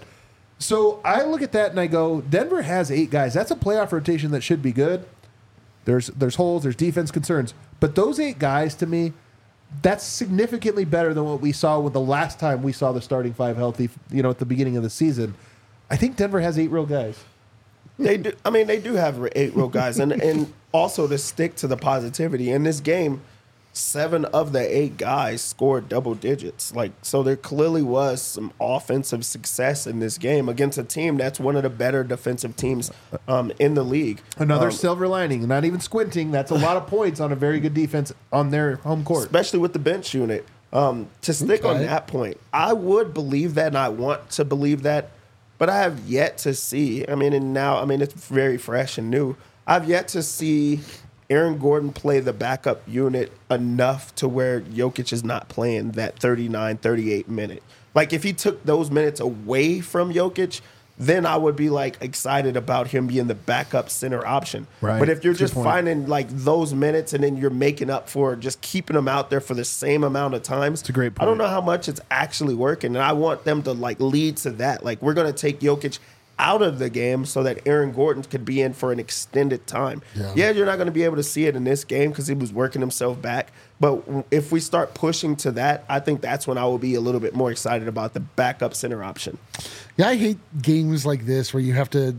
So I look at that and I go, Denver has eight guys. That's a playoff rotation that should be good. There's there's holes, there's defense concerns. But those eight guys, to me, that's significantly better than what we saw with the last time we saw the starting five healthy, you know, at the beginning of the season. I think Denver has eight real guys. They do. I mean, they do have eight real guys, and and also to stick to the positivity in this game, seven of the eight guys scored double digits. Like, so there clearly was some offensive success in this game against a team that's one of the better defensive teams um, in the league. Another Um, silver lining, not even squinting. That's a lot of points on a very good defense on their home court. especially with the bench unit. Um, to stick on Okay. that point, I would believe that, and I want to believe that, but I have yet to see. I mean, and now, I mean, it's very fresh and new. I've yet to see Aaron Gordon play the backup unit enough to where Jokic is not playing that thirty-nine, thirty-eight minute. Like, if he took those minutes away from Jokic, then I would be, like, excited about him being the backup center option. Right. But if you're Good just point. finding, like, those minutes and then you're making up for just keeping them out there for the same amount of times, It's a great I don't point. know how much it's actually working, and I want them to, like, lead to that. Like, we're going to take Jokic out of the game so that Aaron Gordon could be in for an extended time. Yeah. Yeah, you're not going to be able to see it in this game because he was working himself back. But if we start pushing to that, I think that's when I will be a little bit more excited about the backup center option. Yeah, I hate games like this where you have to,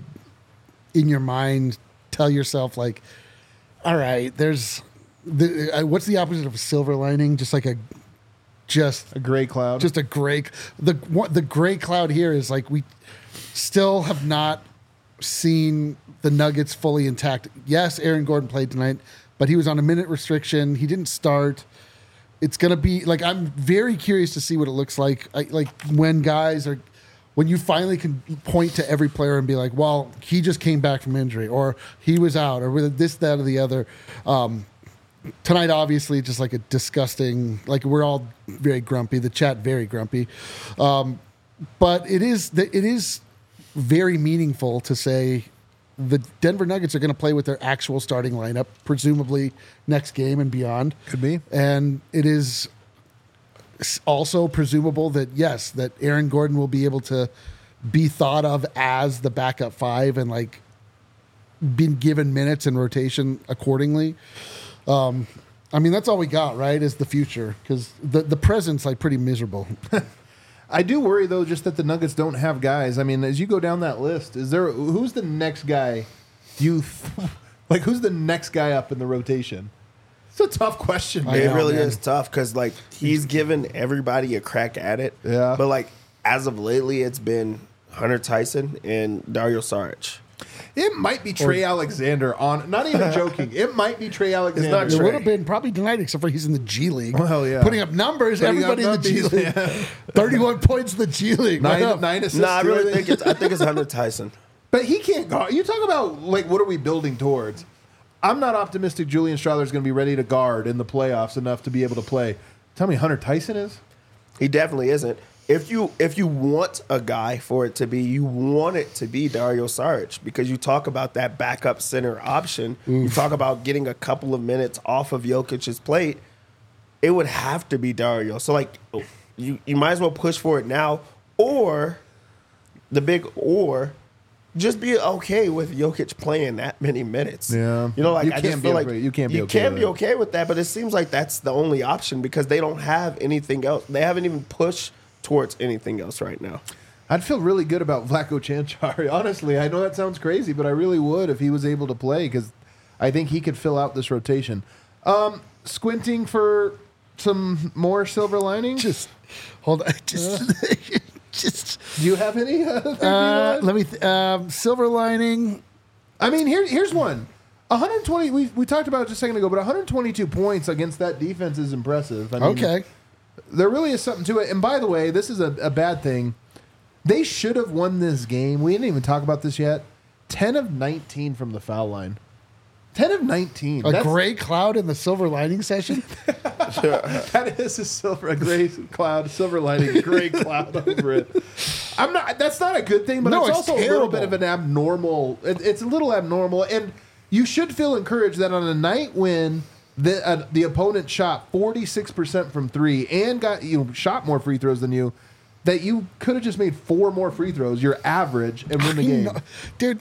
in your mind, tell yourself, like, all right, there's, the, uh, what's the opposite of a silver lining? Just like a, just A gray cloud. just a gray. The what the gray cloud here is like we still have not seen the Nuggets fully intact. Yes, Aaron Gordon played tonight, but he was on a minute restriction. He didn't start. It's gonna be like I'm very curious to see what it looks like. I, like when guys are, when you finally can point to every player and be like, well, he just came back from injury, or he was out, or with this, that, or the other. Um, tonight, obviously, just like a disgusting. Like we're all very grumpy. The chat very grumpy, um, but it is it is very meaningful to say the Denver Nuggets are going to play with their actual starting lineup, presumably next game and beyond. Could be. And it is also presumable that, yes, that Aaron Gordon will be able to be thought of as the backup five and like been given minutes and rotation accordingly. Um, I mean, that's all we got, right, is the future, because the, the present's like pretty miserable. I do worry though, just that the Nuggets don't have guys. I mean, as you go down that list, is there who's the next guy? You th- like who's the next guy up in the rotation? It's a tough question, I man. It know, really man. is tough because, like, he's given everybody a crack at it. Yeah. But, like, as of lately, it's been Hunter Tyson and Dario Saric. It might be Trey Alexander on. Not even joking. It might be Trey Alexander. not It Trey. would have been probably tonight, except for he's in the G League. Well, yeah. Putting up numbers, Putting up everybody in the G numbers, League. yeah. thirty-one points in the G League. What nine, up? nine assists. No, I too, really think it's I think it's Hunter Tyson. But he can't guard. You talk about, like, what are we building towards? I'm not optimistic Julian Strawther is going to be ready to guard in the playoffs enough to be able to play. Tell me Hunter Tyson is? He definitely isn't. If you if you want a guy for it to be, you want it to be Dario Saric because you talk about that backup center option. Oof. You talk about getting a couple of minutes off of Jokic's plate. It would have to be Dario. So, like, you, you might as well push for it now, or the big or just be okay with Jokic playing that many minutes. Yeah. You know, like, you I can't just feel be like okay. you can't be you okay can with be it. okay with that, but it seems like that's the only option because they don't have anything else. They haven't even pushed towards anything else right now. I'd feel really good about Vlatko Canchari. Honestly, I know that sounds crazy, but I really would if he was able to play because I think he could fill out this rotation. Um, squinting for some more silver linings? Just hold on. Just, uh, just. Do you have any? Uh, uh, let me. Th- um, silver lining. I mean, here, here's one. one hundred twenty. We we talked about it just a second ago, but one hundred twenty-two points against that defense is impressive. I mean, okay. There really is something to it. And by the way, this is a, a bad thing. They should have won this game. We didn't even talk about this yet. ten of nineteen from the foul line. ten of nineteen. A That's, gray cloud in the silver lining session? That is a silver, a gray cloud, silver lining, gray cloud over it. I'm not. That's not a good thing, but No, it's, it's also a little terrible. bit of an abnormal. It, it's a little abnormal, and you should feel encouraged that on a night when the uh, the opponent shot forty-six percent from three and got you know, shot more free throws than you, that you could have just made four more free throws, your average, and win the I game. know. Dude,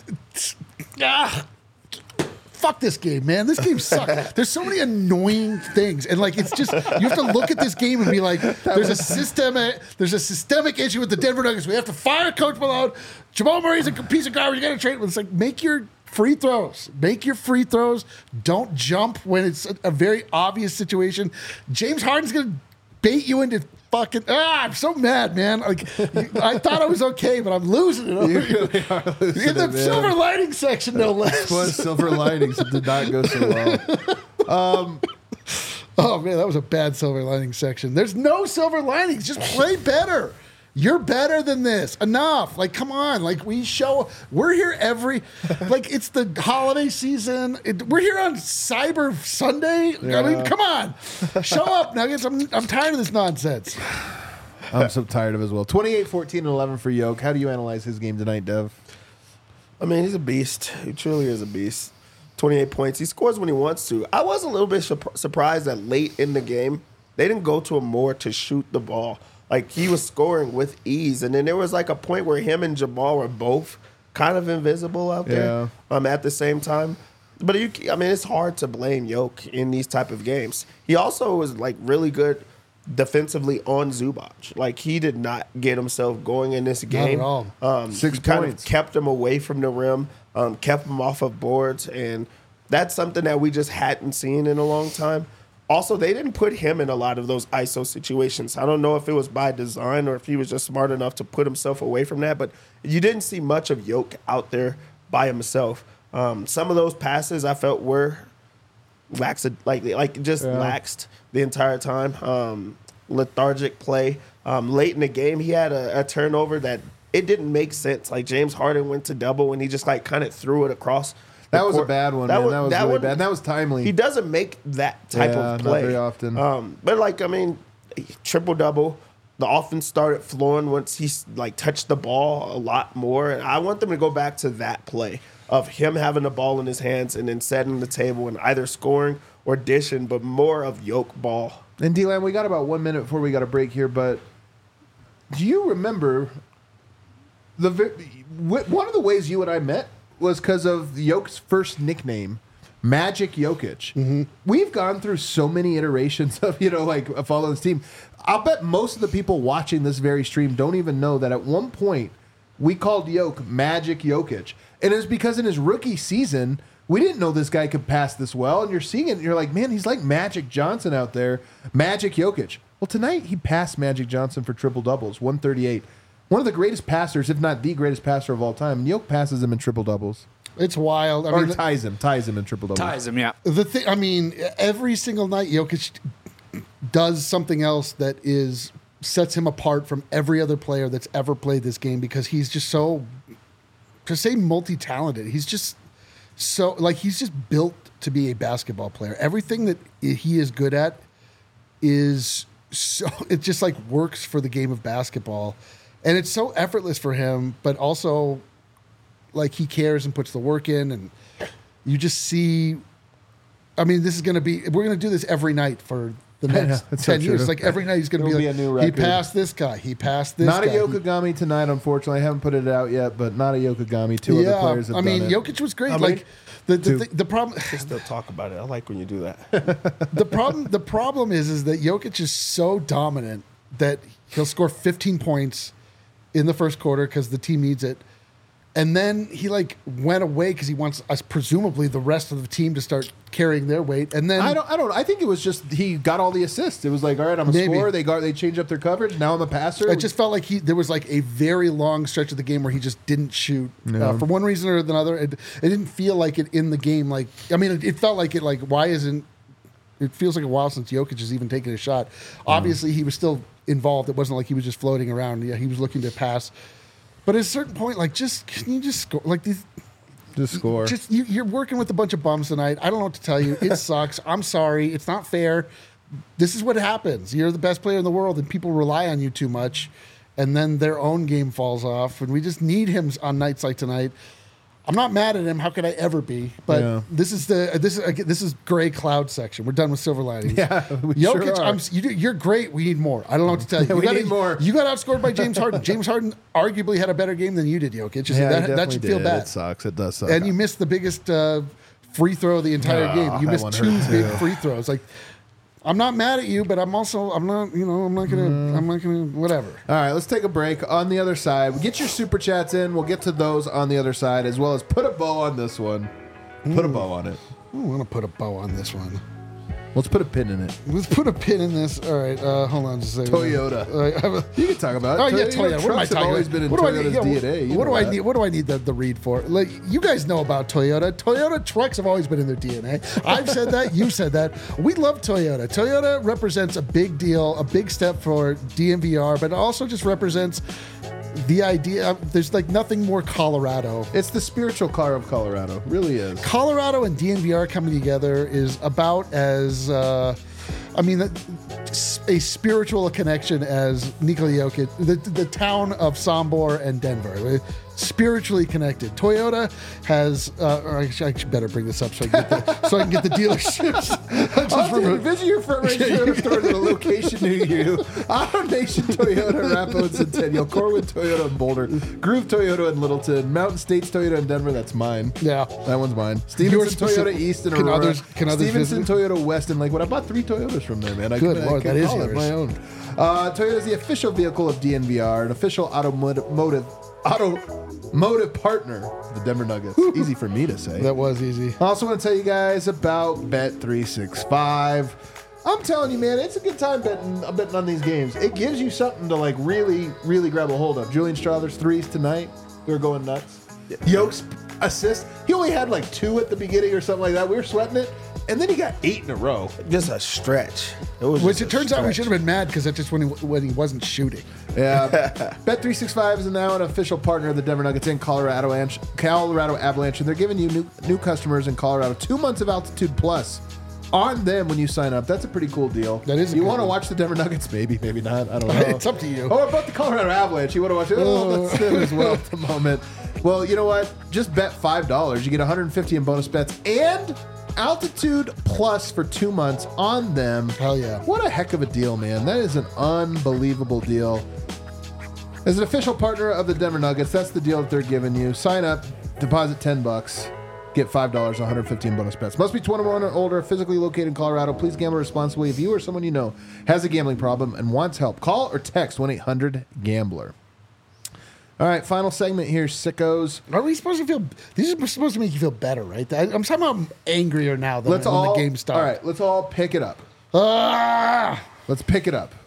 ah, fuck this game, man. This game sucks. There's so many annoying things, and like it's just you have to look at this game and be like, there's a systemic, there's a systemic issue with the Denver Nuggets. We have to fire Coach Malone. Jamal Murray's a piece of garbage. You got to trade him. It's like make your free throws. Make your free throws. Don't jump when it's a, a very obvious situation. James Harden's gonna bait you into fucking. Ah, I'm so mad, man. Like I thought I was okay, but I'm losing it. You really are losing In the it, man. silver lining section, no less. Was silver linings. It did not go so well. Oh man, that was a bad silver lining section. There's no silver linings. Just play better. You're better than this. Enough. Like, come on. Like, we show. We're here every. Like, it's the holiday season. It, we're here on Cyber Sunday. Yeah. I mean, come on. Show up, Nuggets. I'm I'm tired of this nonsense. I'm so tired of it as well. twenty-eight, fourteen, and eleven for Yoke. How do you analyze his game tonight, Dev? I mean, he's a beast. He truly is a beast. twenty-eight points. He scores when he wants to. I was a little bit su- surprised that late in the game, they didn't go to him more to shoot the ball. Like, he was scoring with ease. And then there was, like, a point where him and Jamal were both kind of invisible out there Yeah. um, at the same time. But, you, I mean, it's hard to blame Yoke in these type of games. He also was, like, really good defensively on Zubac. Like, he did not get himself going in this game. at all. Um, Six he kind points. of kept him away from the rim, um, kept him off of boards, and that's something that we just hadn't seen in a long time. Also, they didn't put him in a lot of those I S O situations. I don't know if it was by design or if he was just smart enough to put himself away from that, but you didn't see much of Yoke out there by himself. Um, some of those passes I felt were lax, like like just Yeah. laxed the entire time. Um, lethargic play. Um, late in the game, he had a, a turnover that it didn't make sense. Like James Harden went to double and he just like kind of threw it across. the That was a court. bad one, man. was- that was really one- bad. That was timely. He doesn't make that type Yeah, of not play very often. Um, but like I mean, triple double. The offense started flowing once he like touched the ball a lot more, and I want them to go back to that play of him having the ball in his hands and then setting the table and either scoring or dishing, but more of Yoke ball. And D-Line, we got about one minute before we got a break here, but do you remember the vi- wh- one of the ways you and I met was because of Yoke's first nickname, Magic Jokic. Mm-hmm. We've gone through so many iterations of, you know, like following this team. I'll bet most of the people watching this very stream don't even know that at one point we called Yoke Magic Jokic. And it was because in his rookie season, we didn't know this guy could pass this well. And you're seeing it, and you're like, man, he's like Magic Johnson out there. Magic Jokic. Well, tonight he passed Magic Johnson for triple doubles, one thirty-eight. One of the greatest passers, if not the greatest passer of all time. And Yoke passes him in triple doubles. It's wild. I Or mean, ties him, ties him in triple doubles. Ties him, yeah. the thing. I mean, every single night, Jokic does something else that is sets him apart from every other player that's ever played this game because he's just so, to say multi-talented. He's just so like he's just built to be a basketball player. Everything that he is good at is so it just like works for the game of basketball, and it's so effortless for him, but also like he cares and puts the work in, and you just see. I mean, this is going to be. We're going to do this every night for the next that's so ten years. true. Like every night, he's going to It'll be be like, a new he record. passed this guy. He passed this. Not guy. a Yokogami tonight, unfortunately. I haven't put it out yet, but not a Yokogami. Two yeah, other players have I mean, done it. Jokic was great. How many? Like the the, Two. the the problem. Just still talk about it. I like when you do that. the problem the problem is is that Jokic is so dominant that he'll score fifteen points in the first quarter because the team needs it, and then he like went away because he wants us presumably the rest of the team to start carrying their weight, and then I don't. I don't. I think it was just he got all the assists. It was like, all right, I'm a Maybe. scorer. They got. They changed up their coverage. Now I'm a passer. it just felt like he there was like a very long stretch of the game where he just didn't shoot uh, for one reason or another. It, it didn't feel like it in the game. Like I mean, it, it felt like it. Like why isn't it feels like a while since Jokic has even taken a shot. Obviously, he was still involved. It wasn't like he was just floating around. Yeah, he was looking to pass. But at a certain point, like, just can you just score? Like these, just score. just you, you're working with a bunch of bums tonight. I don't know what to tell you. It sucks. I'm sorry. It's not fair. This is what happens. You're the best player in the world, and people rely on you too much, and then their own game falls off. And we just need him on nights like tonight. I'm not mad at him. How could I ever be? But Yeah. this is the this is this is gray cloud section. We're done with silver linings. Yeah, we Jokic, sure are. I'm, you, do- you're great. We need more. I don't know what to tell you. Yeah, you we got need more. You got outscored by James Harden. James Harden arguably had a better game than you did, Jokic. yeah, that, he that definitely should feel did. bad. It sucks. It does suck. And you missed the biggest uh, free throw of the entire Oh, game. You that missed one two hurt big too. free throws. Like, I'm not mad at you, but I'm also I'm not you know I'm not gonna Mm. I'm not gonna whatever. All right, let's take a break. On the other side, get your super chats in. We'll get to those on the other side, as well as put a bow on this one. Put a bow on it. I want to put a bow on this one. Let's put a pin in it. Let's put a pin in this. All right, uh, hold on just a second. Toyota. All right, I have a- You can talk about it. Oh yeah, Toyota Toyota. What am I trucks have talking always about? been in what do I Toyota's need? Yeah, D N A. You what know do I that. need? What do I need the, the read for? Like you guys know about Toyota. Toyota trucks have always been in their D N A. I've said that. You've said that. We love Toyota. Toyota represents a big deal, a big step for D M V R, but it also just represents the idea. There's like nothing more Colorado. It's the spiritual car of Colorado. Really is. Colorado and D N V R coming together is about as, uh, I mean, a spiritual connection as Nikola Jokic, the, the town of Sombor and Denver. Spiritually connected. Toyota has, uh, or I should, I should better bring this up so I can get the, so I can get the dealerships. I just Oh, dude, remember- visit your front range Toyota store at a location near you. Auto Nation Toyota, Arapahoe and Centennial, Corwin Toyota in Boulder, Groove Toyota in Littleton, Mountain States Toyota in Denver. That's mine. Yeah. That one's mine. Yours Stevenson specific- Toyota East in can Aurora. others- can others Stevenson visit? Toyota West in Lakewood. I bought three Toyotas from there, man. I Good couldn't- I Lord, that couldn't is call it yours. my own. Uh, Toyota is the official vehicle of D N V R, an official automotive automotive partner of the Denver Nuggets. Easy for me to say. That was easy. I also want to tell you guys about Bet three sixty-five. I'm telling you, man, it's a good time betting, betting on these games. It gives you something to like really, really grab a hold of. Julian Strother's threes tonight, they're going nuts. Yoke's assist, he only had like two at the beginning or something like that. We were sweating it, and then he got eight in a row. Just a stretch. It was Which just it a turns out we stretch. should have been mad because that's just when he, when he wasn't shooting. Yeah, Bet three sixty-five is now an official partner of the Denver Nuggets in Colorado Avalanche, Colorado Avalanche, and they're giving you new new customers in Colorado two months of Altitude Plus on them when you sign up. That's a pretty cool deal. That is a You good want to one. watch the Denver Nuggets? Maybe, maybe not. I don't know. It's up to you. Or about the Colorado Avalanche? You want to watch it? Oh, that's them as well at the moment. Well, you know what? Just bet five dollars. You get one hundred fifty in bonus bets and Altitude Plus for two months on them. Hell yeah. What a heck of a deal, man. That is an unbelievable deal. As an official partner of the Denver Nuggets, that's the deal that they're giving you. Sign up, deposit ten bucks, get five dollars, one hundred fifteen bonus bets. Must be twenty-one or older, physically located in Colorado. Please gamble responsibly. If you or someone you know has a gambling problem and wants help, call or text one eight hundred gambler. All right, final segment here, sickos. Are we supposed to feel? These are supposed to make you feel better, right? I- I'm somehow angrier now than Let's when all the game started. All right, let's all pick it up. Ah! Let's pick it up.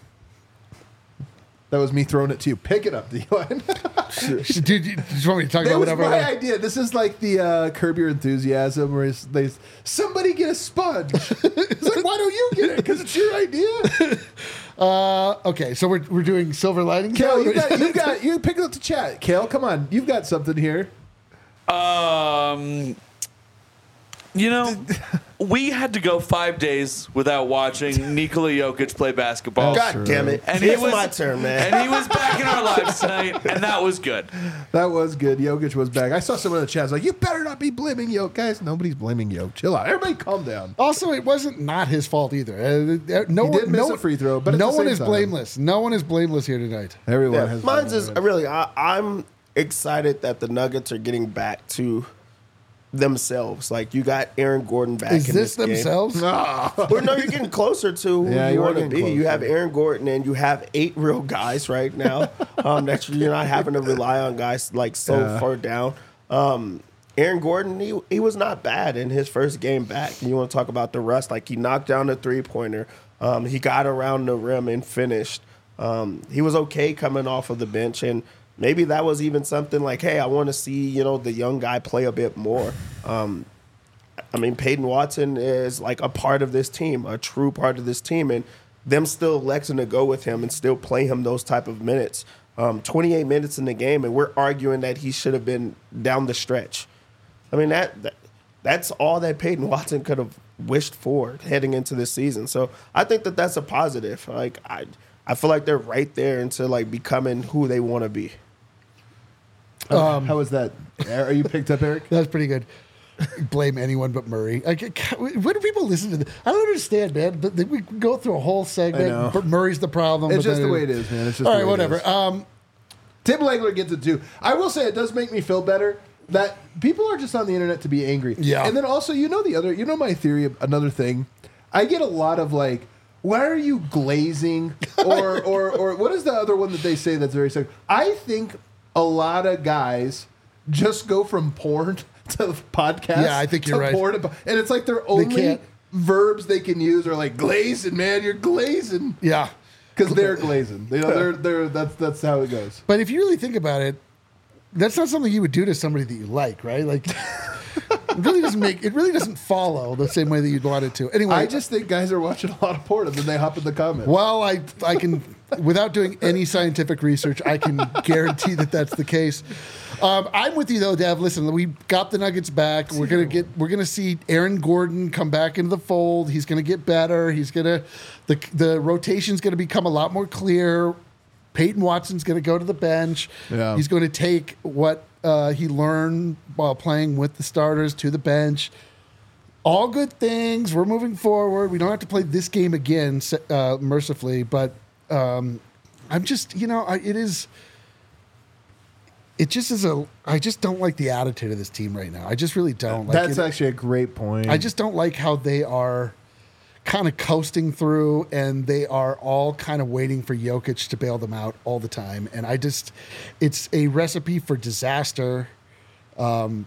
That was me throwing it to you. Pick it up, D-Line. Dude, you just want me to talk That about was whatever? my idea. This is like the uh, Curb Your Enthusiasm, where it's- they somebody get a sponge. It's like, why don't you get it? Because it's your idea. Uh, okay, so we're, we're doing silver linings. Kale, now? you got you got you pick up the chat. Kale, come on, you've got something here. Um, you know, we had to go five days without watching Nikola Jokic play basketball. God true. damn it. And And he it's was- my turn, man. And he was back in our lives tonight, and that was good. That was good. Jokic was back. I saw someone in the chat was like, "You better not be blaming Jokic, guys." Nobody's blaming Jokic. Chill out. Everybody, calm down. Also, it wasn't not his fault either. Uh, uh, no He one, did miss no a one- free throw, but at no the one same is time- blameless. No one is blameless here tonight. Everyone Yeah, has. mine's is really. I, I'm excited that the Nuggets are getting back to themselves. Like you got Aaron Gordon back. Is in this this game. themselves? Well, no, you're getting closer to who Yeah, you you are want to getting be. You closer. have Aaron Gordon, and you have eight real guys right now. um, that you're not having to rely on guys like so Yeah. far down. Um, Aaron Gordon, he he was not bad in his first game back. And you want to talk about the rust? Like he knocked down a three pointer. Um, he got around the rim and finished. Um, he was okay coming off of the bench, and maybe that was even something like, hey, I want to see you know the young guy play a bit more. Um, I mean, Peyton Watson is like a part of this team, a true part of this team, and them still electing to go with him and still play him those type of minutes. Um, twenty-eight minutes in the game, and we're arguing that he should have been down the stretch. I mean, that, that that's all that Peyton Watson could have wished for heading into this season. So I think that that's a positive. Like I, I feel like they're right there into like becoming who they want to be. Um, How was that? Are you picked up, Eric? That's pretty good. Blame anyone but Murray. Like, when do people listen to this? I don't understand, man. But we go through a whole I segment, know. but Murray's the problem. It's but just then the way it is, man. It's just all the right, way it whatever. is. Um, Tim Legler gets it too. I will say it does make me feel better that people are just on the internet to be angry. Yeah. And then also, you know, the other, you know, my theory of another thing. I get a lot of like, why are you glazing? Or, or, or what is the other one that they say that's very sick? I think a lot of guys just go from porn to podcast. Yeah, I think you're to right. Porn to, and it's like their only can't- verbs they can use are like glazing, man. You're glazing. yeah. Because they're glazing. You know, they're, they're, that's, that's how it goes. But if you really think about it, that's not something you would do to somebody that you like, right? Like, it really doesn't make it really doesn't follow the same way that you'd want it to. Anyway, I just think guys are watching a lot of porn and then they hop in the comments. well, I I can without doing any scientific research, I can guarantee that that's the case. Um, I'm with you though, Dev. Listen, we got the Nuggets back. We're gonna get we're gonna see Aaron Gordon come back into the fold. He's gonna get better. He's gonna the the rotation's gonna become a lot more clear. Peyton Watson's going to go to the bench. Yeah. He's going to take what uh, he learned while playing with the starters to the bench. All good things. We're moving forward. We don't have to play this game again, uh, mercifully, but um, I'm just, you know, I, it is. It just is a. I just don't like the attitude of this team right now. I just really don't. Like That's it, actually a great point. I just don't like how they are kind of coasting through, and they are all kind of waiting for Jokic to bail them out all the time. And I just, it's a recipe for disaster. Um,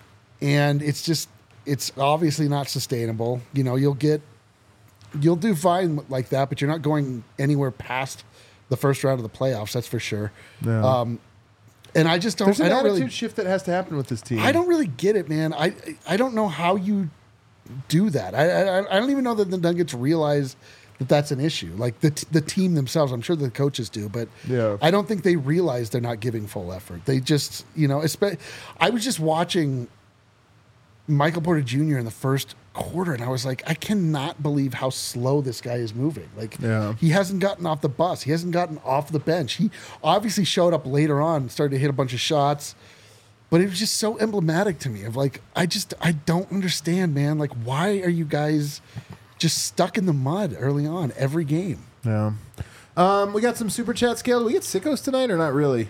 and it's just, it's obviously not sustainable. You know, you'll get, you'll do fine like that, but you're not going anywhere past the first round of the playoffs. That's for sure. Yeah. Um, and I just don't, There's an I don't attitude really, shift that has to happen with this team. I don't really get it, man. I, I don't know how you do that. I, I I don't even know that the Nuggets realize that that's an issue. Like the the team themselves, I'm sure the coaches do, but Yeah. I don't think they realize they're not giving full effort. They just, you know, espe- I was just watching Michael Porter Junior in the first quarter, and I was like, I cannot believe how slow this guy is moving. Like, Yeah. he hasn't gotten off the bus. He hasn't gotten off the bench. He obviously showed up later on, started to hit a bunch of shots. But it was just so emblematic to me of like, I just, I don't understand, man. Like, why are you guys just stuck in the mud early on every game? Yeah. Um, we got some super chat scale. We get sickos tonight or not really?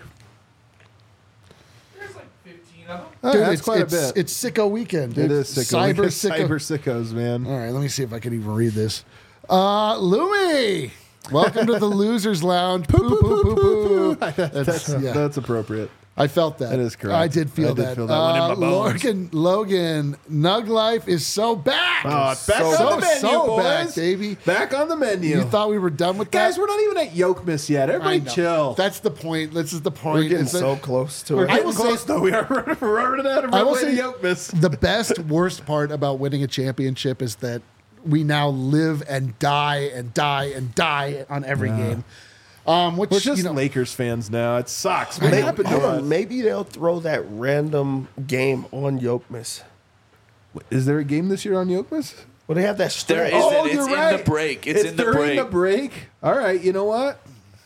There's like fifteen of them. Oh, Dude, that's it's, quite it's, a bit. It's sicko weekend. Dude. It is sicko. Cyber We got sicko. Cyber sickos, man. All right, let me see if I can even read this. Uh, Lumi, welcome to the Losers Lounge. Poo, poo, poo, poo, poo. That's, yeah. that's appropriate. I felt that. That is correct. I did feel I did that. feel that one in Uh, my bones. Logan, Logan, Nug Life is so back. Oh, it's back so, on so, the menu, so boys. back, baby. Back on the menu. You thought we were done with Guys, that? we're not even at Yoke Miss yet. I Everybody know. chill. That's the point. This is the point. We're getting is that so close to we're it. I getting will say- close, though. We are running, we're running out of I will runway to say Yoke Miss. the best, worst part about winning a championship is that we now live and die and die and die on every game. Um, which, We're just you know, Lakers fans now. It sucks. What I know. happened to Hold us? on, maybe they'll throw that random game on Yokmas. Is there a game this year on Yokmas? Well, they have that There stretch. is Oh, It's you're in right. the break. It's, in the during break. the break. All right, you know what?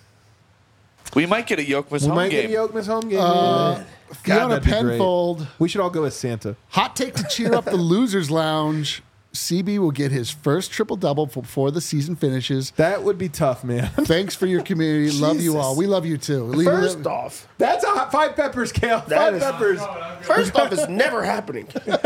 We might get a Yokmas We home might game. get a Yokmas home game. Uh, God, Fiona that'd be great. Penfold. We should all go as Santa. Hot take to cheer up the losers lounge. C B will get his first triple double before the season finishes. That would be tough, man. Thanks for your community. Love you Jesus. all. We love you too. Leave First it- off, That's a hot five peppers, Kale. That Five is- peppers. first off, it's never happening.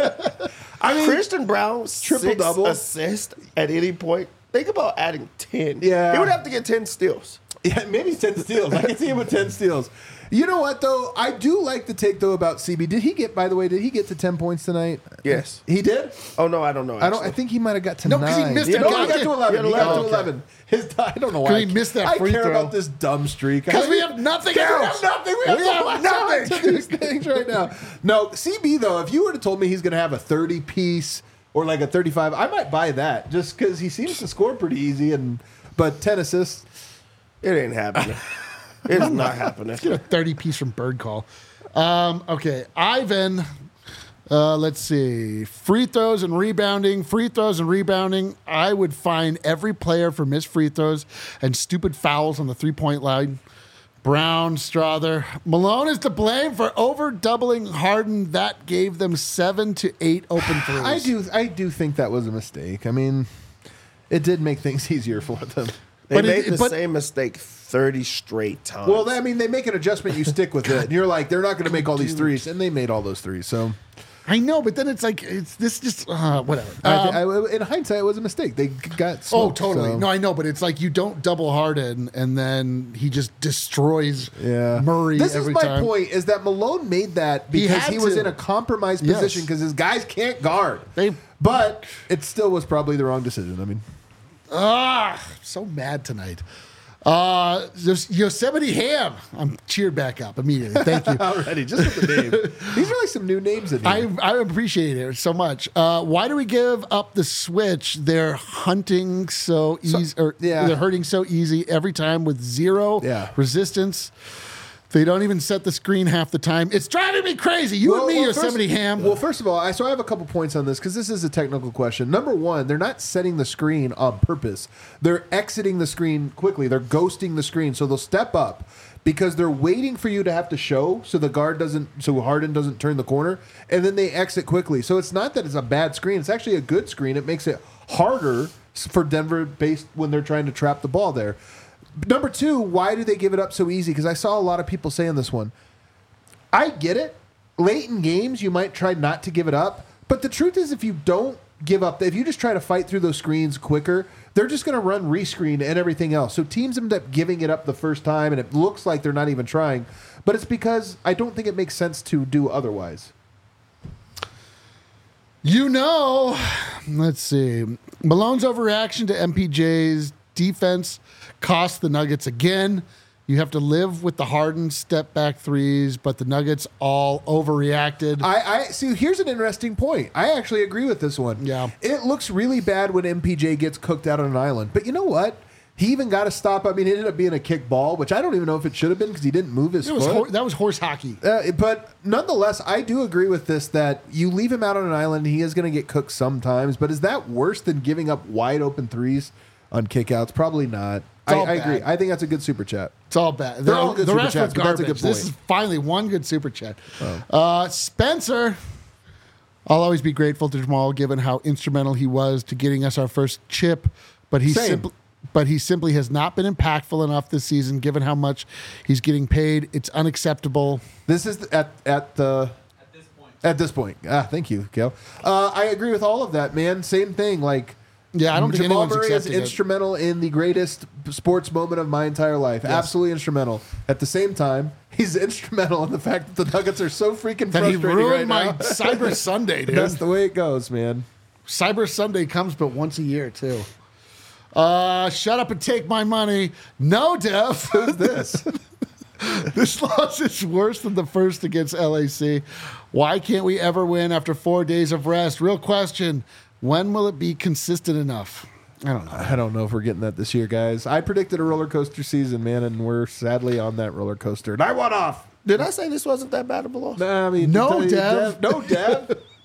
I mean, Christian Brown Triple six double. assist at any point. Think about adding ten. Yeah. he would have to get ten steals. yeah, maybe ten steals. I can see him with ten steals. You know what, though? I do like the take, though, about C B. Did he get, by the way, did he get to ten points tonight? Yes. He did? Oh no, I don't know. I don't. I actually. think he might have got to No, nine. 'cause he missed yeah, a no, he got goddamn- to eleven. he He had got to eleven. eleven. His, I don't know why. 'Cause he missed that I free care throw. about this dumb streak. Because I- we have nothing We else. have nothing. We have, We to have latch nothing. on to these things right now. No, C B though. If you would have told me he's going to have a thirty piece or like a thirty-five, I might buy that just because he seems to score pretty easy. And but ten assists. It ain't happening. It's not happening. Get a thirty piece from Bird Call. Um, okay, Ivan. Uh, let's see. Free throws and rebounding. Free throws and rebounding. I would fine every player for missed free throws and stupid fouls on the three point line. Brown, Strother. Malone is to blame for over doubling Harden. That gave them seven to eight open threes. I do. I do think that was a mistake. I mean, it did make things easier for them. They But it- made the but- same mistake thirty straight times. Well, I mean, they make an adjustment. You stick with it. And you're like, they're not going to make all these threes, and they made all those threes. So, I know, but then it's like it's this just uh, whatever. I Um, thi- I- in hindsight, it was a mistake. They got Oh, smoked, totally. so- No, I know, but it's like you don't double Harden, and then he just destroys Yeah. Murray This every is my time. point: is that Malone made that He because had he, was to. in a compromised Yes. position because his guys can't guard. They- but it still was probably the wrong decision. I mean, Ah, so mad tonight. Uh, Yos- Yosemite Ham. I'm cheered back up immediately. Thank you. already just with the name, these are like some new names in here. I, I appreciate it so much. Uh, why do we give up the switch? They're hunting so easy, or yeah. they're hurting so easy every time with zero Yeah. resistance. They don't even set the screen half the time. It's driving me crazy. You and me, Yosemite first, Ham. Well, first of all, I so I have a couple points on this because this is a technical question. Number one, they're not setting the screen on purpose. They're exiting the screen quickly. They're ghosting the screen, so they'll step up because they're waiting for you to have to show, so the guard doesn't, so Harden doesn't turn the corner, and then they exit quickly. So it's not that it's a bad screen; it's actually a good screen. It makes it harder for Denver based when they're trying to trap the ball there. Number two, why do they give it up so easy? Because I saw a lot of people saying this one. I get it. Late in games, you might try not to give it up. But the truth is, if you don't give up, if you just try to fight through those screens quicker, they're just going to run rescreen and everything else. So teams end up giving it up the first time, and it looks like they're not even trying. But it's because I don't think it makes sense to do otherwise. You know, let's see. Malone's overreaction to M P J's defense cost the Nuggets again. You have to live with the Harden step back threes, but the Nuggets all overreacted. I, I see. Here's an interesting point. I actually agree with this one. Yeah. It looks really bad when M P J gets cooked out on an island. But you know what? He even got a stop. I mean, it ended up being a kick ball, which I don't even know if it should have been because he didn't move his It was foot. hor- that was horse hockey. Uh, but nonetheless, I do agree with this that you leave him out on an island, he is going to get cooked sometimes. But is that worse than giving up wide open threes on kickouts? Probably not. I, all I agree. bad. I think that's a good super chat. It's all bad. They're all good the super rest chats, were but that's a garbage. good This point. is finally one good super chat. Uh, Spencer, I'll always be grateful to Jamal given how instrumental he was to getting us our first chip, but he Same. simply but he simply has not been impactful enough this season given how much he's getting paid. It's unacceptable. This is at at the At this point. at this point. Ah, thank you, Gail. Uh, I agree with all of that, man. Same thing. Like, Yeah, I don't think Jamal anyone's Murray is accepting it. instrumental in the greatest sports moment of my entire life. Absolutely instrumental. At the same time, he's instrumental in the fact that the Nuggets are so freaking That he frustrating ruined right my now. Cyber Sunday, dude. That's the way it goes, man. Cyber Sunday comes but once a year, too. Uh, shut up and take my money. No, Dev. Who's this? This loss is worse than the first against L A C. Why can't we ever win after four days of rest? Real question. When will it be consistent enough? I don't know. I don't know if we're getting that this year, guys. I predicted a roller coaster season, man, and we're sadly on that roller coaster. And I went off. Did I say this wasn't that bad of a loss? Nah, I mean, No, to tell you, Dev. No, Dev.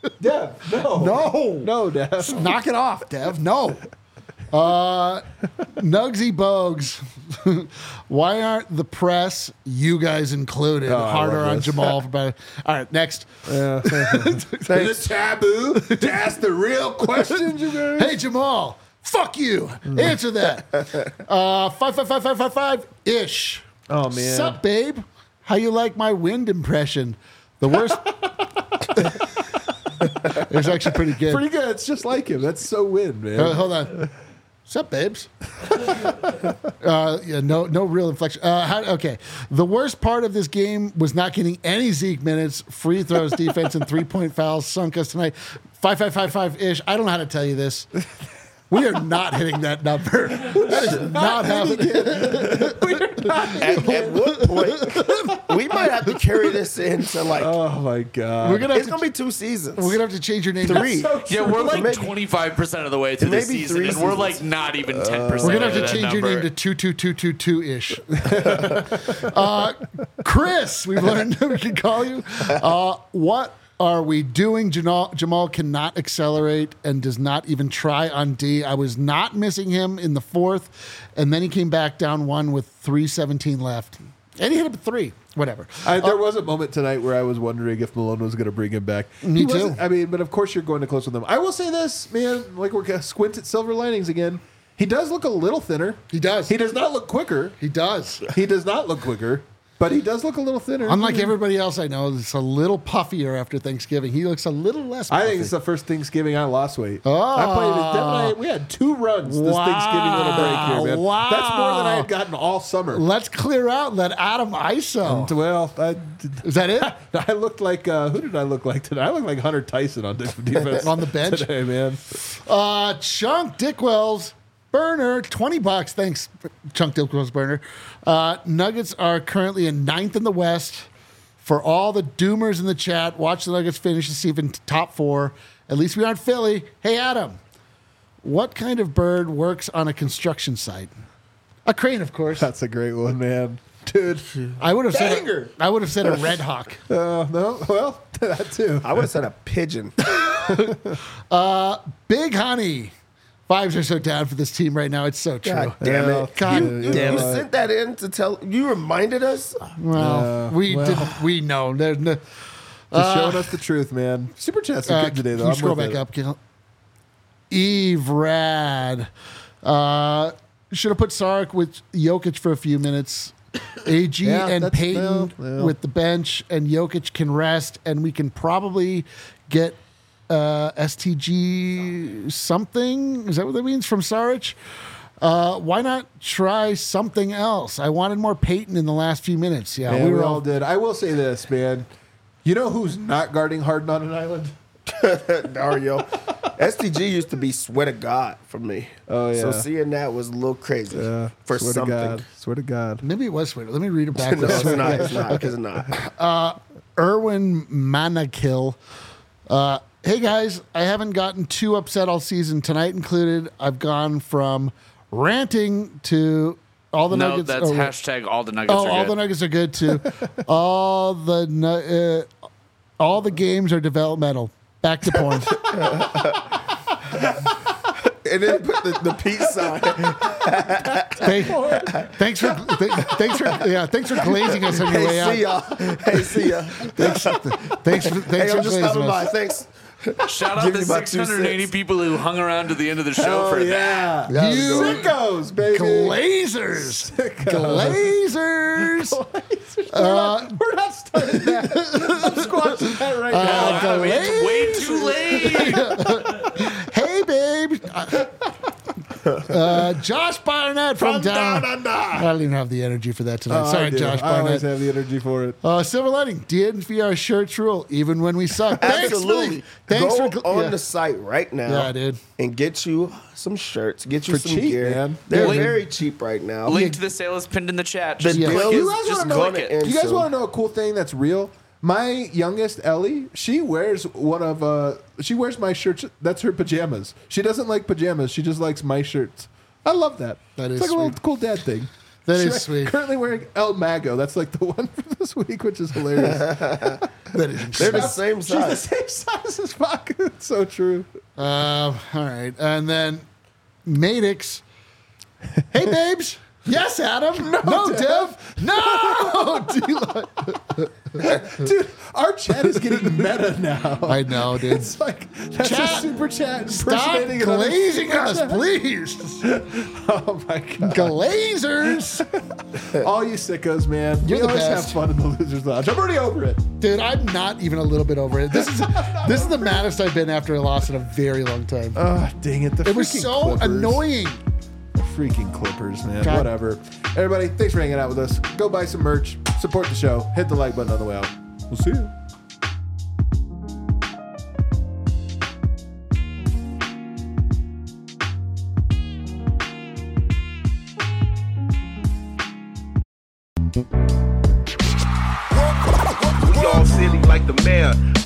Dev, no. No. No, Dev. Knock it off, Dev. No. Uh, Nugsy Bogues. Why aren't the press, you guys included, Oh, I harder love on this. Jamal? For better? All right, next. Is it taboo to ask the real questions, you guys? Hey, Jamal. Fuck you. Answer that. Uh, five, five, five, five, five, five ish. Oh, man. Sup, babe? How you like my wind impression? The worst. It's actually pretty good. Pretty good. It's just like him. That's so win, man. Uh, hold on. Sup, babes? uh, yeah, no, no real inflection. Uh, how, okay, the worst part of this game was not getting any Zeke minutes. Free throws, defense, and three-point fouls sunk us tonight. Five, five, five, five ish. I don't know how to tell you this. We are not hitting that number. That is not happening. At, at what point we might have to carry this into like Oh, my God. We're gonna have it's to, gonna be two seasons. we're gonna have to change your name. Three. So Yeah, we're like Maybe- twenty-five percent of the way through the maybe season, three and we're seasons. like not even ten percent. We're gonna have to of that change your number. name to two two two two two ish. uh, Chris, we've learned we can call you. Uh, what are we doing? Jamal, Jamal cannot accelerate and does not even try on D. I was not missing him in the fourth, and then he came back down one with three seventeen left, and he hit up three. Whatever. I, there was a moment tonight where I was wondering if Malone was going to bring him back. Me He too. wasn't- I mean, but of course you're going to close with him. I will say this, man. Like we're gonna squint at silver linings again. He does look a little thinner. He does. He does not look quicker. He does. He does not look quicker, but he does look a little thinner. Unlike everybody else I know, it's a little puffier after Thanksgiving. He looks a little less puffy. I think it's the first Thanksgiving I lost weight. Oh. I played. Dev and I, we had two runs this Wow. Thanksgiving little break here, man. Wow. That's more than I had gotten all summer. Let's clear out. Let Adam ice him. Well, I, Is that it? I looked like uh, who did I look like today? I looked like Hunter Tyson on defense On the bench? today, man. Uh, Chunk Dickwell's burner, twenty bucks. Thanks, Chunk Dickwell's burner. Uh, Nuggets are currently in ninth in the West. For all the doomers in the chat, watch the Nuggets finish the season top four. At least we aren't Philly. Hey, Adam, what kind of bird works on a construction site? A crane, of course. That's a great one, man, dude. I would have said. Banger. A, I would have said a red hawk. Uh, no, well, that too. I would have said a pigeon. Big Honey. Vibes are so down for this team right now. It's so true. God damn Well, it! God you, damn you it. sent that in to tell. You reminded us. Well, Uh, we well. did. We know. There's no, Just showing us the truth, man. Super chats are Uh, good today, can though. you I'm scroll with back it. up, Gil? Eve Rad. Uh, should have put Sark with Jokic for a few minutes. A G Yeah, and that's- Peyton well, well. with the bench, and Jokic can rest, and we can probably get uh, S T G something. Is that what that means from Saric? Uh, why not try something else? I wanted more Peyton in the last few minutes. Yeah, Yeah, we were all. did. I will say this, man. You know who's not guarding Harden on an island? Dario. S T G used to be swear to God for me. Oh, So yeah. seeing that was a little crazy Yeah, for swear something. to God. Swear to God. Maybe it was sweet. Let me read it back. No, it's not. It's not. It's not. Erwin Manakill. Uh, hey guys, I haven't gotten too upset all season. Tonight included, I've gone from ranting to all the No, Nuggets. that's oh, hashtag all the Nuggets oh, are all good. the Nuggets are good too. all the nu- uh, all the games are developmental. Back to porn. And then put the, the peace sign. Thank- thanks for th- thanks for yeah thanks for glazing us on your way Hey, see out. y'all. Hey, see ya. Thanks for thanks for, Hey, thanks I'm for just glazing stopping by. us. Thanks. Shout out Give the me my two six hundred eighty cents. people who hung around to the end of the show for that. yeah. You Sickos, baby. Glazers, Glazers. we're, not, we're not starting that. I'm squashing that right Uh, now. I mean, it's way too late. Hey, babe. Uh, uh, Josh Barnett from, From down. down under. I don't even have the energy for that tonight. Oh, I Sorry, do. Josh I always Barnett. have the energy for it. Uh, silver lining. D N V R shirts rule, even when we suck. Thanks, Absolutely. Billy. Thanks Go for gl- on yeah. the site right now. Yeah, dude. And get you some shirts. Get you For some cheap, gear. man. They're Yeah, very cheap right now. Link to the sale is pinned in the chat. The Just deal click is You guys it. Just wanna know- click it. and You guys so- want to know a cool thing that's real? My youngest Ellie, she wears one of uh, she wears my shirts. That's her pajamas. She doesn't like pajamas. She just likes my shirts. I love that. That it's is like a little sweet. cool dad thing. That She's is sweet. Currently wearing El Mago. That's like the one for this week, which is hilarious. That is They're the incredible. same She's the size. same size as Fuck. It's so true. Um, all right. And then Maddox. Hey, babes. Yes, Adam. No, no Dev. No, D-Lo. Dude, our chat is getting meta now. I know, dude. It's like, that's Chat, a super chat. Stop impersonating another glazing super us, chat. please. Oh, my God. Glazers. All you sickos, man. You're we the always best. have fun in the Losers Lounge. I'm already over it. Dude, I'm not even a little bit over it. This is this is the maddest I've been after a loss in a very long time. Oh, dang it. The It was freaking so Clippers. annoying. Freaking Clippers, man. God. Whatever. Everybody, thanks for hanging out with us. Go buy some merch. Support the show. Hit the like button on the way out. We'll see you. We all silly like the mayor.